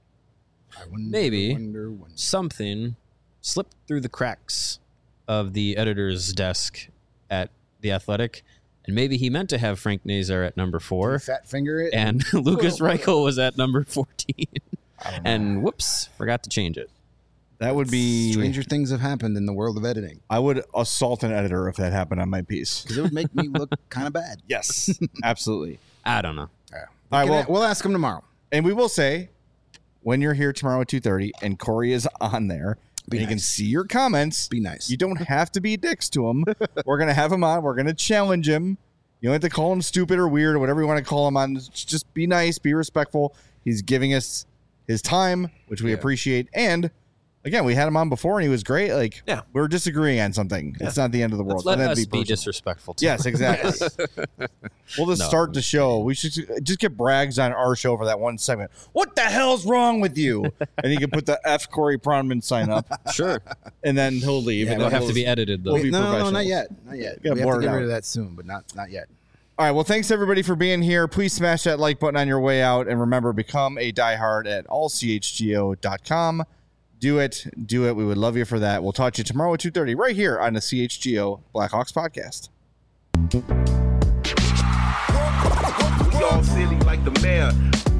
[SPEAKER 3] maybe
[SPEAKER 4] wonder.
[SPEAKER 3] something slipped through the cracks of the editor's desk at The Athletic, and maybe he meant to have Frank Nazar at number 4,
[SPEAKER 4] Fat finger it.
[SPEAKER 3] and Lucas Reichel was at number 14, and whoops, forgot to change it.
[SPEAKER 1] That would be.
[SPEAKER 4] Stranger things have happened in the world of editing
[SPEAKER 1] I would assault an editor if that happened on my piece.
[SPEAKER 4] because it would make me look kind of bad.
[SPEAKER 1] Yes, absolutely.
[SPEAKER 3] I don't know.
[SPEAKER 1] All right, well,
[SPEAKER 4] We'll ask him tomorrow.
[SPEAKER 1] and we will say when you're here tomorrow at 2:30 and Corey is on there,
[SPEAKER 4] Be
[SPEAKER 1] and you can
[SPEAKER 4] nice.
[SPEAKER 1] see your comments.
[SPEAKER 4] Be nice.
[SPEAKER 1] You don't have to be dicks to him. We're gonna have him on. We're gonna challenge him. You don't have to call him stupid or weird or whatever you want to call him on. Just be nice, be respectful. He's giving us his time, which we appreciate. And again, we had him on before and he was great. Like,
[SPEAKER 5] Yeah.
[SPEAKER 1] we're disagreeing on something. It's not the end of the world.
[SPEAKER 3] Let
[SPEAKER 1] Don't have
[SPEAKER 3] us
[SPEAKER 1] to
[SPEAKER 3] be
[SPEAKER 1] personal.
[SPEAKER 3] disrespectful to
[SPEAKER 1] Yes, exactly. We'll just
[SPEAKER 3] No.
[SPEAKER 1] start the show. We should just get Braggs on our show for that one segment. What the hell's wrong with you? And he can put the F Corey Pronman sign up,
[SPEAKER 3] Sure.
[SPEAKER 1] and then he'll leave.
[SPEAKER 4] Yeah,
[SPEAKER 1] and
[SPEAKER 3] It'll
[SPEAKER 1] then
[SPEAKER 3] have to be edited, though.
[SPEAKER 1] We'll be
[SPEAKER 4] no,
[SPEAKER 1] professionals.
[SPEAKER 4] not yet. Not yet.
[SPEAKER 1] Gotta
[SPEAKER 4] We have
[SPEAKER 1] blur
[SPEAKER 4] to
[SPEAKER 1] it
[SPEAKER 4] get
[SPEAKER 1] out.
[SPEAKER 4] rid of that soon, but not yet.
[SPEAKER 1] All right. Well, thanks everybody for being here. Please smash that like button on your way out. And remember, become a diehard at allchgo.com. Do it. We would love you for that. We'll talk to you tomorrow at 2:30 right here on the CHGO Blackhawks podcast.
[SPEAKER 6] We all silly like the mayor.